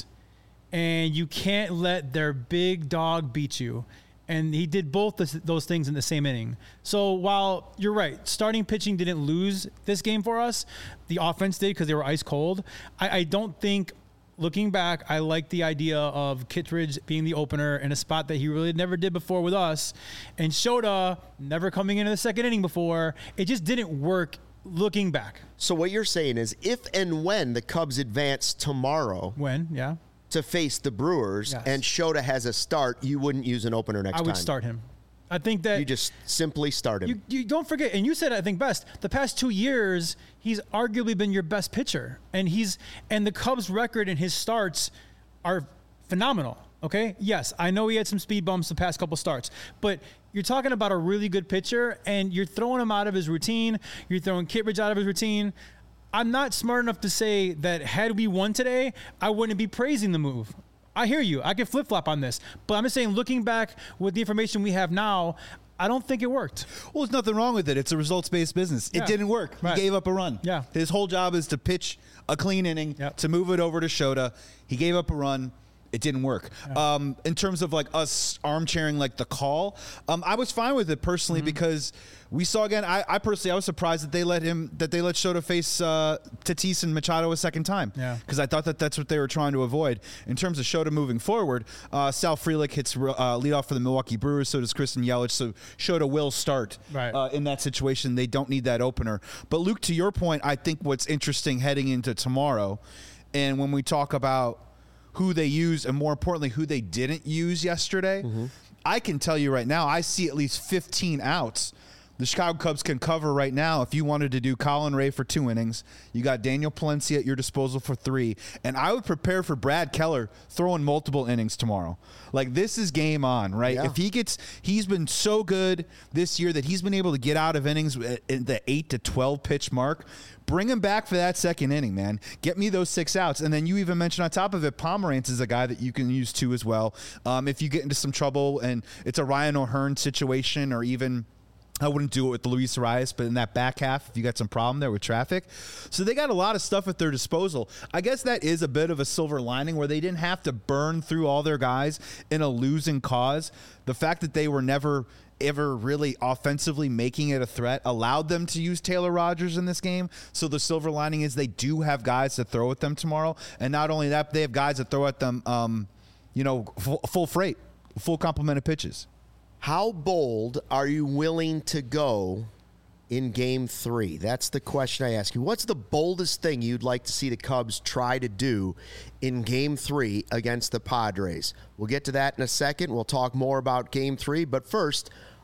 and you can't let their big dog beat you. And he did both this, those things in the same inning. So while you're right, starting pitching didn't lose this game for us, the offense did because they were ice cold. I, I don't think, looking back, I like the idea of Kittredge being the opener in a spot that he really never did before with us. And Shota never coming into the second inning before. It just didn't work looking back. So what you're saying is if and when the Cubs advance tomorrow When, yeah. to face the Brewers Yes. and Shota has a start, you wouldn't use an opener next I time. would start him. I think that You just simply start him. You, you don't forget, and you said it, I think best. The past two years, he's arguably been your best pitcher, and he's and the Cubs' record and his starts are phenomenal. Okay, yes, I know he had some speed bumps the past couple starts, but you're talking about a really good pitcher, and you're throwing him out of his routine. You're throwing Kittredge out of his routine. I'm not smart enough to say that had we won today, I wouldn't be praising the move. I hear you. I can flip-flop on this. But I'm just saying, looking back with the information we have now, I don't think it worked. Well, there's nothing wrong with it. It's a results-based business. Yeah. It didn't work. Right. He gave up a run. Yeah. His whole job is to pitch a clean inning, Yep. to move it over to Shota. He gave up a run. It didn't work. Um, in terms of like us armchairing like the call, um, I was fine with it personally Mm-hmm. because we saw again. I, I personally I was surprised that they let him that they let Shota face uh, Tatis and Machado a second time. Yeah. Because I thought that that's what they were trying to avoid. In terms of Shota moving forward, uh, Sal Frelick hits uh, lead off for the Milwaukee Brewers. So does Kristen Yelich. So Shota will start Right. uh, in that situation. They don't need that opener. But Luke, to your point, I think what's interesting heading into tomorrow, and when we talk about who they used and more importantly who they didn't use yesterday, Mm-hmm. I can tell you right now I see at least fifteen outs the Chicago Cubs can cover right now. If you wanted to do Colin Ray for two innings, you got Daniel Palencia at your disposal for three, and I would prepare for Brad Keller throwing multiple innings tomorrow. Like, this is game on, right? Yeah. If he gets, he's been so good this year that he's been able to get out of innings in the eight to twelve pitch mark. Bring him back for that second inning, man. Get me those six outs. And then you even mentioned on top of it, Pomeranz is a guy that you can use too as well. Um, if you get into some trouble and it's a Ryan O'Hearn situation, or even, I wouldn't do it with Luis Arias, but in that back half, if you got some problem there with traffic. So they got a lot of stuff at their disposal. I guess that is a bit of a silver lining where they didn't have to burn through all their guys in a losing cause. The fact that they were never ever really offensively making it a threat allowed them to use Taylor Rogers in this game. So the silver lining is they do have guys to throw at them tomorrow. And not only that, they have guys that throw at them, um, you know, full, full freight, full complement of pitches. How bold are you willing to go in game three? That's the question I ask you. What's the boldest thing you'd like to see the Cubs try to do in game three against the Padres? We'll get to that in a second. We'll talk more about game three. But first,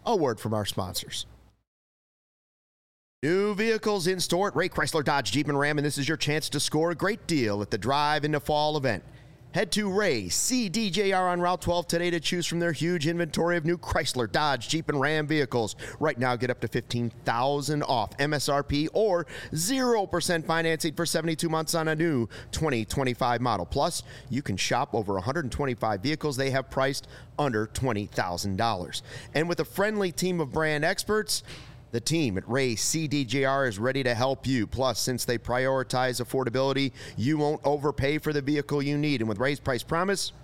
a word from our sponsors. New vehicles in store at Ray Chrysler Dodge Jeep and Ram, and this is your chance to score a great deal at the Drive into Fall event. Head to Ray C D J R on Route twelve today to choose from their huge inventory of new Chrysler, Dodge, Jeep, and Ram vehicles. Right now, get up to fifteen thousand dollars off M S R P or zero percent financing for seventy-two months on a new twenty twenty-five model. Plus, you can shop over one hundred twenty-five vehicles they have priced under twenty thousand dollars. And with a friendly team of brand experts, the team at Ray C D J R is ready to help you. Plus, since they prioritize affordability, you won't overpay for the vehicle you need. And with Ray's Price Promise,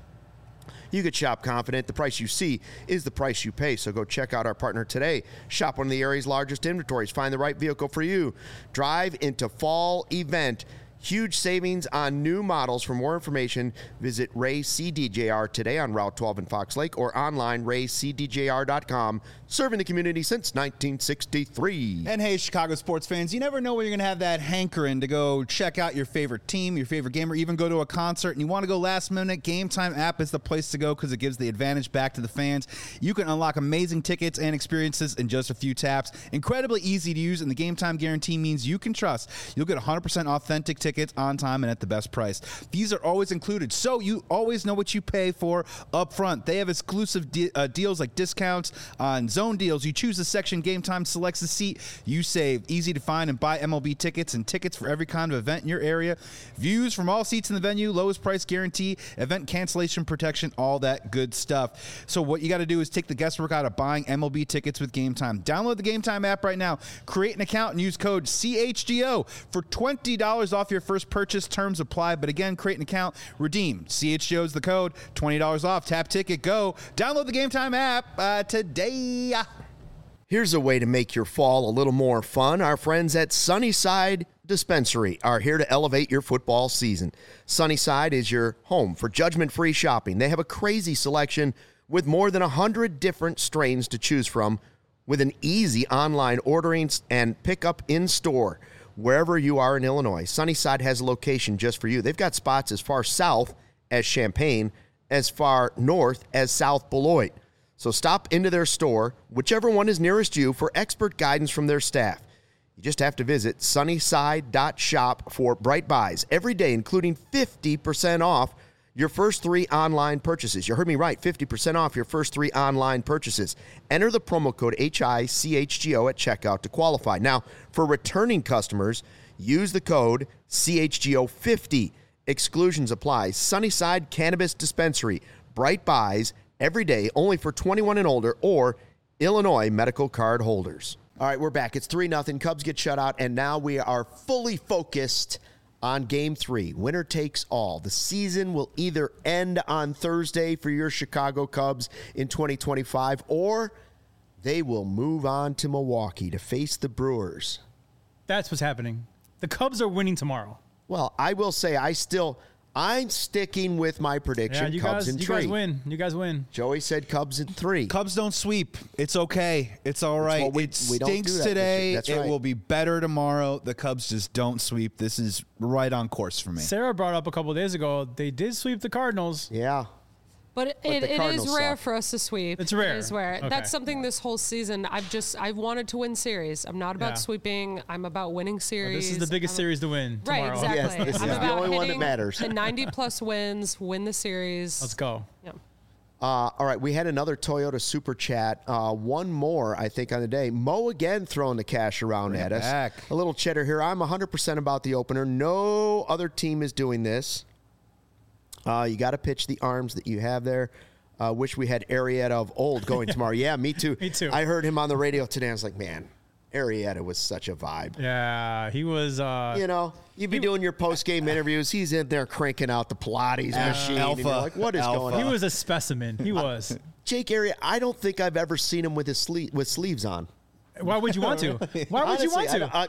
you could shop confident. The price you see is the price you pay. So go check out our partner today. Shop one of the area's largest inventories. Find the right vehicle for you. Drive into Fall event. Huge savings on new models. For more information, visit Ray C D J R today on Route twelve in Fox Lake or online, ray c d j r dot com. Serving the community since nineteen sixty-three. And hey, Chicago sports fans, you never know when you're going to have that hankering to go check out your favorite team, your favorite game, or even go to a concert and you want to go last minute. Game Time app is the place to go because it gives the advantage back to the fans. You can unlock amazing tickets and experiences in just a few taps. Incredibly easy to use, and the Game Time guarantee means you can trust you'll get one hundred percent authentic tickets on time and at the best price. These are always included, so you always know what you pay for up front. They have exclusive de- uh, deals like discounts on zone deals. You choose the section Game Time selects the seat. You save. Easy to find and buy M L B tickets and tickets for every kind of event in your area. Views from all seats in the venue, lowest price guarantee, event cancellation protection, all that good stuff. So what you got to do is take the guesswork out of buying M L B tickets with Game Time. Download the Game Time app right now. Create an account and use code C H G O for twenty dollars off your first purchase. Terms apply. But again, create an account, redeem. C H G O is the code. twenty dollars off. Tap ticket. Go. Download the Game Time app uh, today. Here's a way to make your fall a little more fun. Our friends at Sunnyside Dispensary are here to elevate your football season. Sunnyside is your home for judgment-free shopping. They have a crazy selection with more than one hundred different strains to choose from, with an easy online ordering and pickup in-store wherever you are in Illinois. Sunnyside has a location just for you. They've got spots as far south as Champaign, as far north as South Beloit. So stop into their store, whichever one is nearest you, for expert guidance from their staff. You just have to visit sunnyside dot shop for bright buys every day, including fifty percent off your first three online purchases. You heard me right, fifty percent off your first three online purchases. Enter the promo code H I C H G O at checkout to qualify. Now, for returning customers, use the code C H G O fifty. Exclusions apply. Sunnyside Cannabis Dispensary. Bright buys every day, only for twenty-one and older or Illinois medical card holders. All right, we're back. It's three nothing. Cubs get shut out, and now we are fully focused on game three. Winner takes all. The season will either end on Thursday for your Chicago Cubs in twenty twenty-five, or they will move on to Milwaukee to face the Brewers. That's what's happening. The Cubs are winning tomorrow. Well, I will say I still... I'm sticking with my prediction. Yeah, you Cubs guys, in you three. guys win. You guys win. Joey said Cubs in three. Cubs don't sweep. It's okay. It's all right. Well, we, it we don't stinks do that. today. That's It right. will be better tomorrow. The Cubs just don't sweep. This is right on course for me. Sarah brought up a couple days ago, they did sweep the Cardinals. Yeah. But, it, But it, the it is Cardinals rare suck. for us to sweep. It's rare. It is rare. Okay. That's something this whole season I've just I've wanted to win series. I'm not about Yeah. sweeping. I'm about winning series. This is the biggest I'm- series to win Right, tomorrow. exactly. Yes, this I'm is the about only one that hitting matters. The ninety plus wins, win the series. Let's go. Yeah. Uh, all right, we had another Toyota Super Chat. Uh, one more, I think, on the day. Mo again throwing the cash around Bring at it us. back. A little cheddar here. I'm one hundred percent about the opener. No other team is doing this. Uh, you got to pitch the arms that you have there. Uh, wish we had Arrieta of old going tomorrow. Yeah, me too. Me too. I heard him on the radio today. I was like, man, Arrieta was such a vibe. Yeah, he was. Uh, You know, you'd be doing your post-game interviews. He's in there cranking out the Pilates machine. And Alpha. you're like, what is Alpha. going he on? was a specimen. He was. Jake Arrieta, I don't think I've ever seen him with his sleeve with sleeves on. Why would you want to? Why would you want Honestly, to? I, I,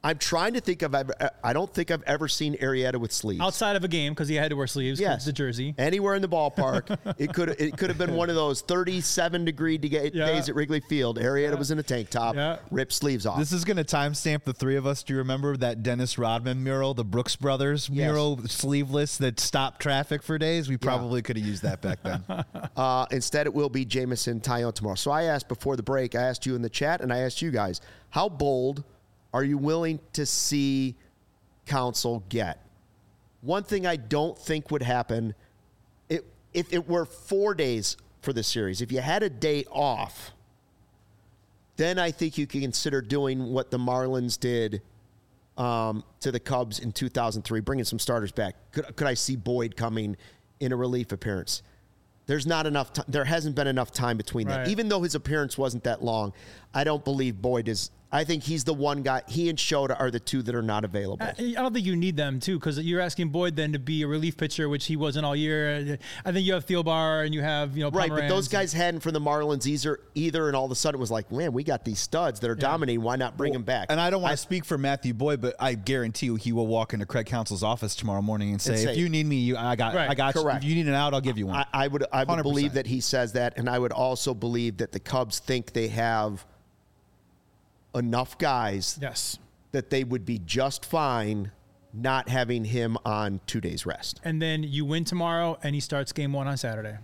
I'm trying to think of. I don't think I've ever seen Arrieta with sleeves outside of a game because he had to wear sleeves. Yes, the jersey. Anywhere in the ballpark, it could it could have been one of those thirty-seven degree de- yeah. days at Wrigley Field. Arrieta yeah. was in a tank top, yeah. ripped sleeves off. This is going to timestamp the three of us. Do you remember that Dennis Rodman mural, the Brooks Brothers yes. mural, sleeveless that stopped traffic for days? We probably yeah. could have used that back then. uh, instead, it will be Jameson Taillon tomorrow. So I asked before the break. I asked you in the chat, and I asked you guys, how bold are you willing to see Counsell get? One thing I don't think would happen, it, if it were four days for the series, if you had a day off, then I think you can consider doing what the Marlins did um, to the Cubs in two thousand three, bringing some starters back. Could, could I see Boyd coming in a relief appearance? There's not enough time. There hasn't been enough time between right. that. Even though his appearance wasn't that long, I don't believe Boyd is. I think he's the one guy. He and Shota are the two that are not available. I, I don't think you need them, too, because you're asking Boyd then to be a relief pitcher, which he wasn't all year. I think you have Thielbar and you have, you know, right, Pomeranz. But those guys hadn't for the Marlins either, either, and all of a sudden it was like, man, we got these studs that are yeah. dominating. Why not bring well, them back? And I don't want to speak for Matthew Boyd, but I guarantee you he will walk into Craig Counsell's office tomorrow morning and say, and say if you need me, you, I got, right. I got Correct. you. If you need an out, I'll give you one. I, I would, I would believe that he says that, and I would also believe that the Cubs think they have enough guys yes. that they would be just fine not having him on two days rest. And then you win tomorrow and he starts game one on Saturday.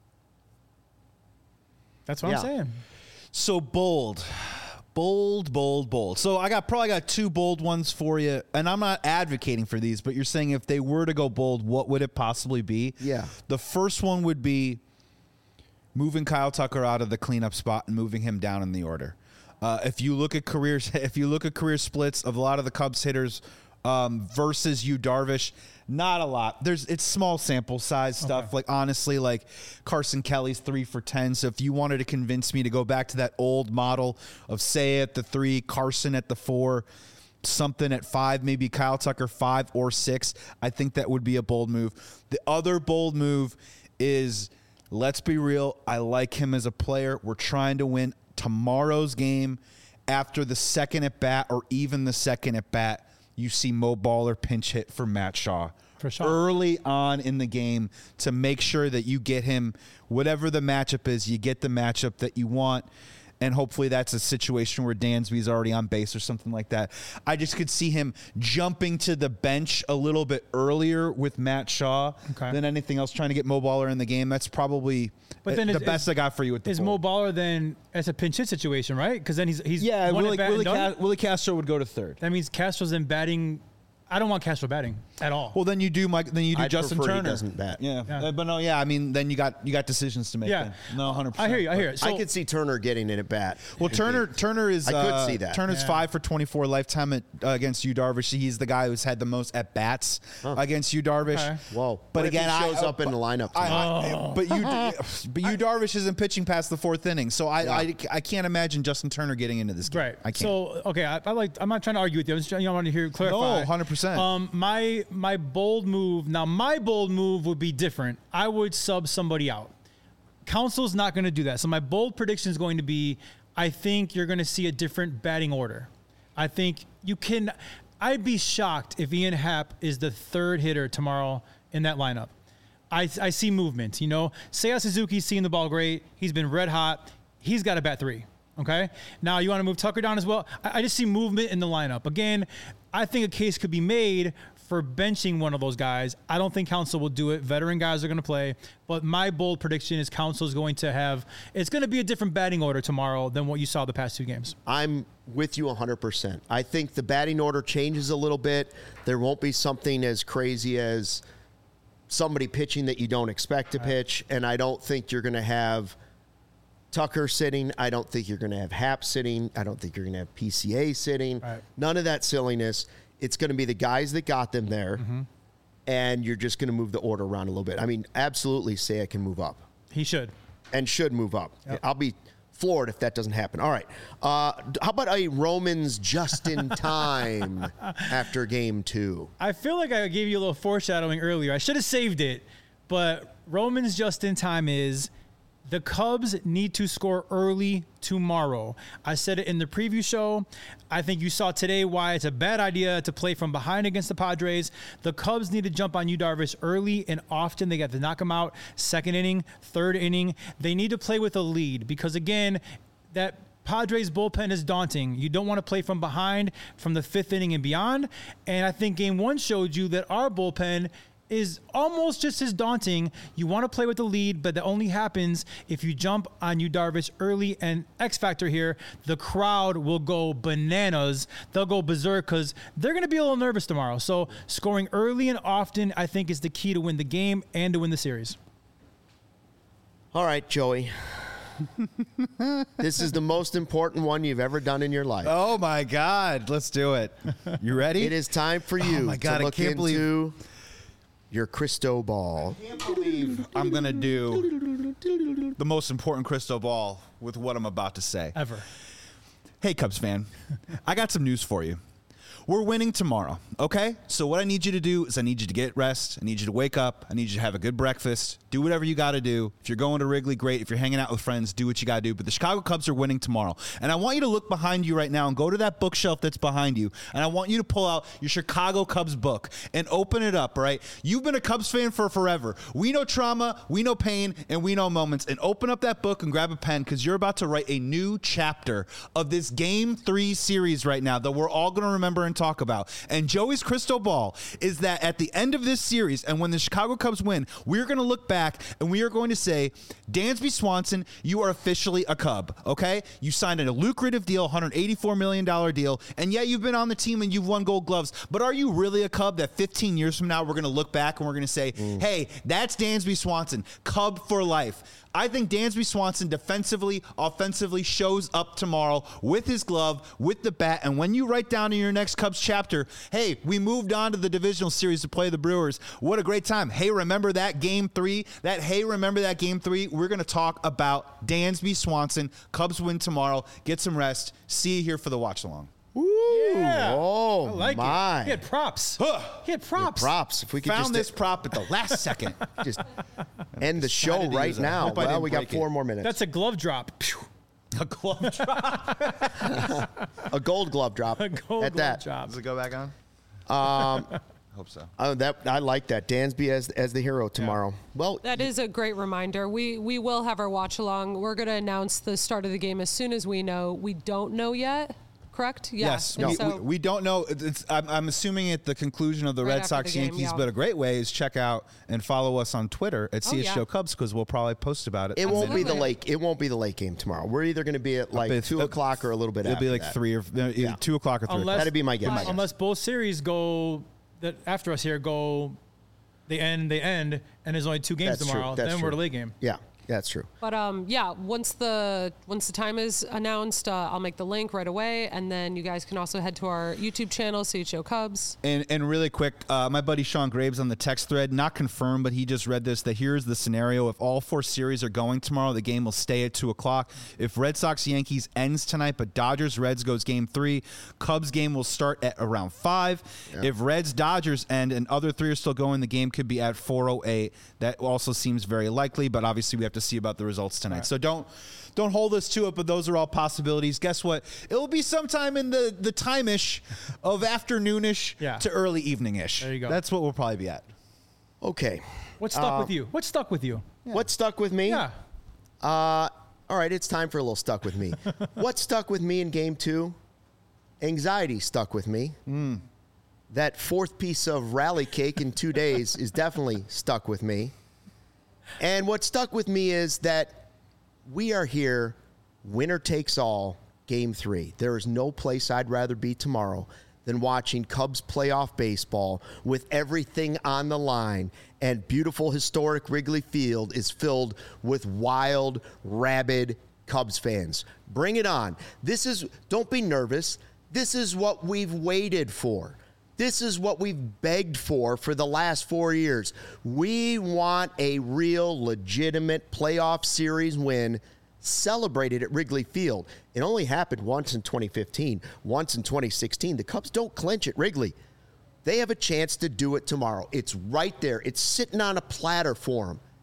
That's what yeah. I'm saying. So bold, bold, bold, bold. So I got probably got two bold ones for you. And I'm not advocating for these, but you're saying if they were to go bold, what would it possibly be? Yeah. The first one would be moving Kyle Tucker out of the cleanup spot and moving him down in the order. Uh, if you look at careers, if you look at career splits of a lot of the Cubs hitters um, versus Yu Darvish, not a lot. There's it's small sample size stuff. Okay. Like honestly, like Carson Kelly's three for ten. So if you wanted to convince me to go back to that old model of Seiya at the three, Carson at the four, something at five, maybe Kyle Tucker five or six, I think that would be a bold move. The other bold move is, let's be real, I like him as a player. We're trying to win tomorrow's game. After the second at bat or even the second at bat, you see Mo Baller pinch hit for Matt Shaw for sure. early on in the game to make sure that you get him, whatever the matchup is, you get the matchup that you want. And hopefully that's a situation where Dansby's already on base or something like that. I just could see him jumping to the bench a little bit earlier with Matt Shaw okay. than anything else, trying to get Mo Baller in the game. That's probably but then the is, best is, I got for you with the Is ball. Mo Baller then as a pinch hit situation, right? Because then he's he's yeah. Willie, Willie, Ca- Willie Castro would go to third. That means Castro's then batting. I don't want Castro batting at all. Well, then you do Mike. Then you do I'd Justin prefer Turner. He doesn't bat. Yeah. yeah. Uh, but no, yeah. I mean, then you got you got decisions to make. Yeah, then. no, one hundred percent. I hear you. I hear it. So, I could see Turner getting in at bat. Well, Turner Turner is. I could uh, see that. Turner's yeah. five for twenty-four lifetime at, uh, against Yu Darvish. He's the guy who's had the most at bats huh. against Yu Darvish. Okay. Whoa! But what again, if he shows I, up in the lineup. I, I, oh. But you, but Yu Darvish isn't pitching past the fourth inning, so I, yeah. I, I can't imagine Justin Turner getting into this game. Right. I can't. So okay, I, I like. I'm not trying to argue with you. I'm just you know, I want to hear clarify. No, one hundred percent. Um, my my. bold move. Now, my bold move would be different. I would sub somebody out. Counsell's not going to do that. So my bold prediction is going to be, I think you're going to see a different batting order. I think you can. I'd be shocked if Ian Happ is the third hitter tomorrow in that lineup. I, I see movement. You know, Seiya Suzuki's seeing the ball great. He's been red hot. He's got to bat three. Okay. Now you want to move Tucker down as well. I, I just see movement in the lineup. Again, I think a case could be made for benching one of those guys. I don't think Counsell will do it. Veteran guys are going to play. But my bold prediction is Counsell is going to have, it's going to be a different batting order tomorrow than what you saw the past two games. I'm with you one hundred percent. I think the batting order changes a little bit. There won't be something as crazy as somebody pitching that you don't expect to right. pitch. And I don't think you're going to have Tucker sitting. I don't think you're going to have Happ sitting. I don't think you're going to have P C A sitting. Right. None of that silliness. It's going to be the guys that got them there, mm-hmm. and you're just going to move the order around a little bit. I mean, absolutely, Seiya can move up. He should. And should move up. Yep. I'll be floored if that doesn't happen. All right. Uh, how about a Romans just in time after game two? I feel like I gave you a little foreshadowing earlier. I should have saved it, but Romans just in time is The Cubs need to score early tomorrow. I said it in the preview show. I think you saw today why it's a bad idea to play from behind against the Padres. The Cubs need to jump on Yu Darvish early and often. They got to knock him out second inning, third inning. They need to play with a lead because, again, that Padres bullpen is daunting. You don't want to play from behind from the fifth inning and beyond. And I think game one showed you that our bullpen is almost just as daunting. You want to play with the lead, but that only happens if you jump on Yu Darvish early. And X factor here, the crowd will go bananas. They'll go berserk because they're going to be a little nervous tomorrow. So scoring early and often, I think, is the key to win the game and to win the series. All right, Joey. This is the most important one you've ever done in your life. Oh, my God. Let's do it. You ready? It is time for you oh my God, to look I can't into believe- your crystal ball. I can't believe I'm going to do the most important crystal ball with what I'm about to say. Ever. Hey, Cubs fan, I got some news for you. We're winning tomorrow, okay? So what I need you to do is I need you to get rest. I need you to wake up. I need you to have a good breakfast. Do whatever you got to do. If you're going to Wrigley, great. If you're hanging out with friends, do what you got to do. But the Chicago Cubs are winning tomorrow. And I want you to look behind you right now and go to that bookshelf that's behind you. And I want you to pull out your Chicago Cubs book and open it up, right? You've been a Cubs fan for forever. We know trauma, we know pain, and we know moments. And open up that book and grab a pen because you're about to write a new chapter of this Game three series right now that we're all going to remember and talk about. And Joey's crystal ball is that at the end of this series and when the Chicago Cubs win, we're going to look back and we are going to say, Dansby Swanson, you are officially a Cub, okay? You signed a lucrative deal, one hundred eighty-four million dollars deal, and yeah, you've been on the team and you've won gold gloves, but are you really a Cub that fifteen years from now we're going to look back and we're going to say, mm. hey, that's Dansby Swanson, Cub for life. I think Dansby Swanson defensively, offensively shows up tomorrow with his glove, with the bat, and when you write down in your next Cubs chapter, hey, we moved on to the divisional series to play the Brewers. What a great time. Hey, remember that game three? That hey, remember that game three? We're going to talk about Dansby Swanson. Cubs win tomorrow. Get some rest. See you here for the watch along. Ooh, Yeah. oh I like my. it. He had props. He had props. Props. If we could Found just this prop at the last second. just end the show decided to right use it. now. Hope I Well, didn't we got break four it. more minutes. That's a glove drop. Pew. A glove drop. a gold glove drop. A gold at glove that. drop. Does it go back on? Um, Hope so. oh, that I like that. Dansby as as the hero tomorrow. Well, That is a great reminder. We we will have our watch along. We're going to announce the start of the game as soon as we know. We don't know yet, correct? Yeah. Yes. And We, so- we, we don't know. It's, I'm, I'm assuming at the conclusion of the Right Red after Sox the game, Yankees, yeah. but a great way is check out and follow us on Twitter at Oh, C S yeah. Show Cubs because we'll probably post about it. it won't be the Absolutely. late. It won't be the late game tomorrow. We're either going to be at like It's- two o'clock or a little bit. It'll after be like that. three or uh, Yeah. two o'clock or three. Unless- That'd be my guess. Unless, unless both series go that after us here go, they end, they end, and there's only two games That's tomorrow. true. That's then true. we're the late game. Yeah, that's true. But um, yeah, once the once the time is announced, uh, I'll make the link right away, and then you guys can also head to our YouTube channel, C H O Cubs. And and really quick, uh, my buddy Sean Graves on the text thread, not confirmed, but he just read this, that here's the scenario. If all four series are going tomorrow, the game will stay at two o'clock. If Red Sox Yankees ends tonight, but Dodgers Reds goes game three, Cubs game will start at around five. If Reds Dodgers end and other three are still going, the game could be at four oh eight. That also seems very likely, but obviously we have to see about the results tonight. Right. So don't don't hold us to it, but those are all possibilities. Guess what? It will be sometime in the, the time-ish of afternoonish Yeah. to early evening-ish. There you go. That's what we'll probably be at. Okay. What stuck Uh, with you? What stuck with you? What stuck with me? Yeah. Uh, all right, it's time for a little stuck with me. What stuck with me in game two? Anxiety stuck with me. Mm. That fourth piece of rally cake in two days is definitely stuck with me. And what stuck with me is that we are here, winner takes all, game three. There is no place I'd rather be tomorrow than watching Cubs playoff baseball with everything on the line. And beautiful, historic Wrigley Field is filled with wild, rabid Cubs fans. Bring it on. This is, don't be nervous. This is what we've waited for. This is what we've begged for for the last four years. We want a real, legitimate playoff series win celebrated at Wrigley Field. It only happened once in twenty fifteen, once in twenty sixteen. The Cubs don't clinch at Wrigley. They have a chance to do it tomorrow. It's right there. It's sitting on a platter for them.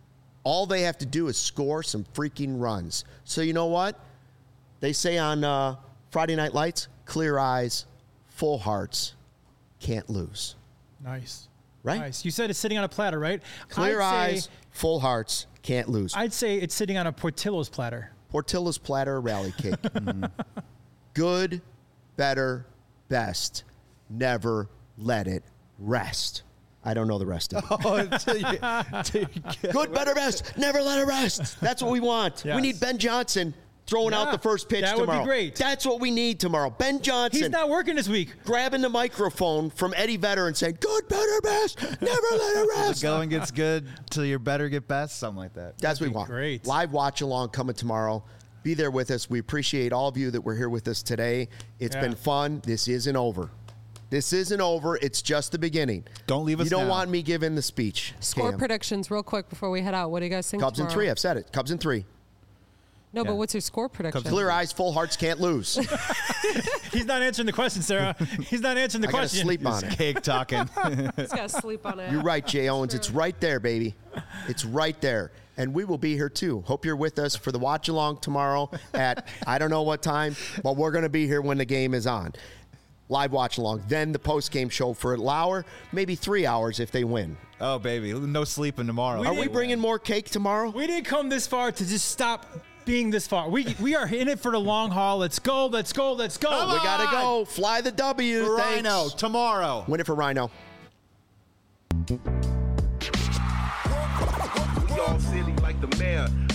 All they have to do is score some freaking runs. So you know what? They say on uh, Friday Night Lights, clear eyes, full hearts, can't lose. Nice. Right? Nice. You said it's sitting on a platter, right? Clear I'd eyes, say, full hearts, can't lose. I'd say it's sitting on a Portillo's platter. Portillo's platter rally cake. mm. Good, better, best. Never let it rest. I don't know the rest of it. Oh, until you, until you get Good, better, best. Never let it rest. That's what we want. Yes. We need Ben Johnson throwing Yeah, out the first pitch that would be tomorrow. great. That's what we need tomorrow. Ben Johnson. He's not working this week. Grabbing the microphone from Eddie Vedder and saying, good, better, best. Never let it rest. the going gets good till you're better get best, something like that. That's what we be want. great. Live watch along coming tomorrow. Be there with us. We appreciate all of you that were here with us today. It's Yeah. been fun. This isn't over. This isn't over. It's just the beginning. Don't leave us You don't now. want me giving the speech. Score Cam. predictions real quick before we head out. What do you guys think Cubs in tomorrow? three. I've said it. Cubs in three. No, Yeah. but what's your score prediction? Clear eyes, full hearts, can't lose. He's not answering the question, Sarah. He's not answering the I gotta question. sleep on it. Cake talking. He's got to sleep on it. You're right, Jay Owens. It's right there, baby. It's right there. And we will be here too. Hope you're with us for the watch along tomorrow at I don't know what time, but we're going to be here when the game is on. Live watch along. Then the post game show for an hour, maybe three hours if they win. Oh, baby. No sleeping tomorrow. Are we bringing more cake tomorrow? We didn't come this far to just stop being this far. We we are in it for the long haul. Let's go. Let's go. Let's go. We got to go. Fly the W. For Thanks. Rhino tomorrow. Win it for Rhino. Y'all silly like the mayor.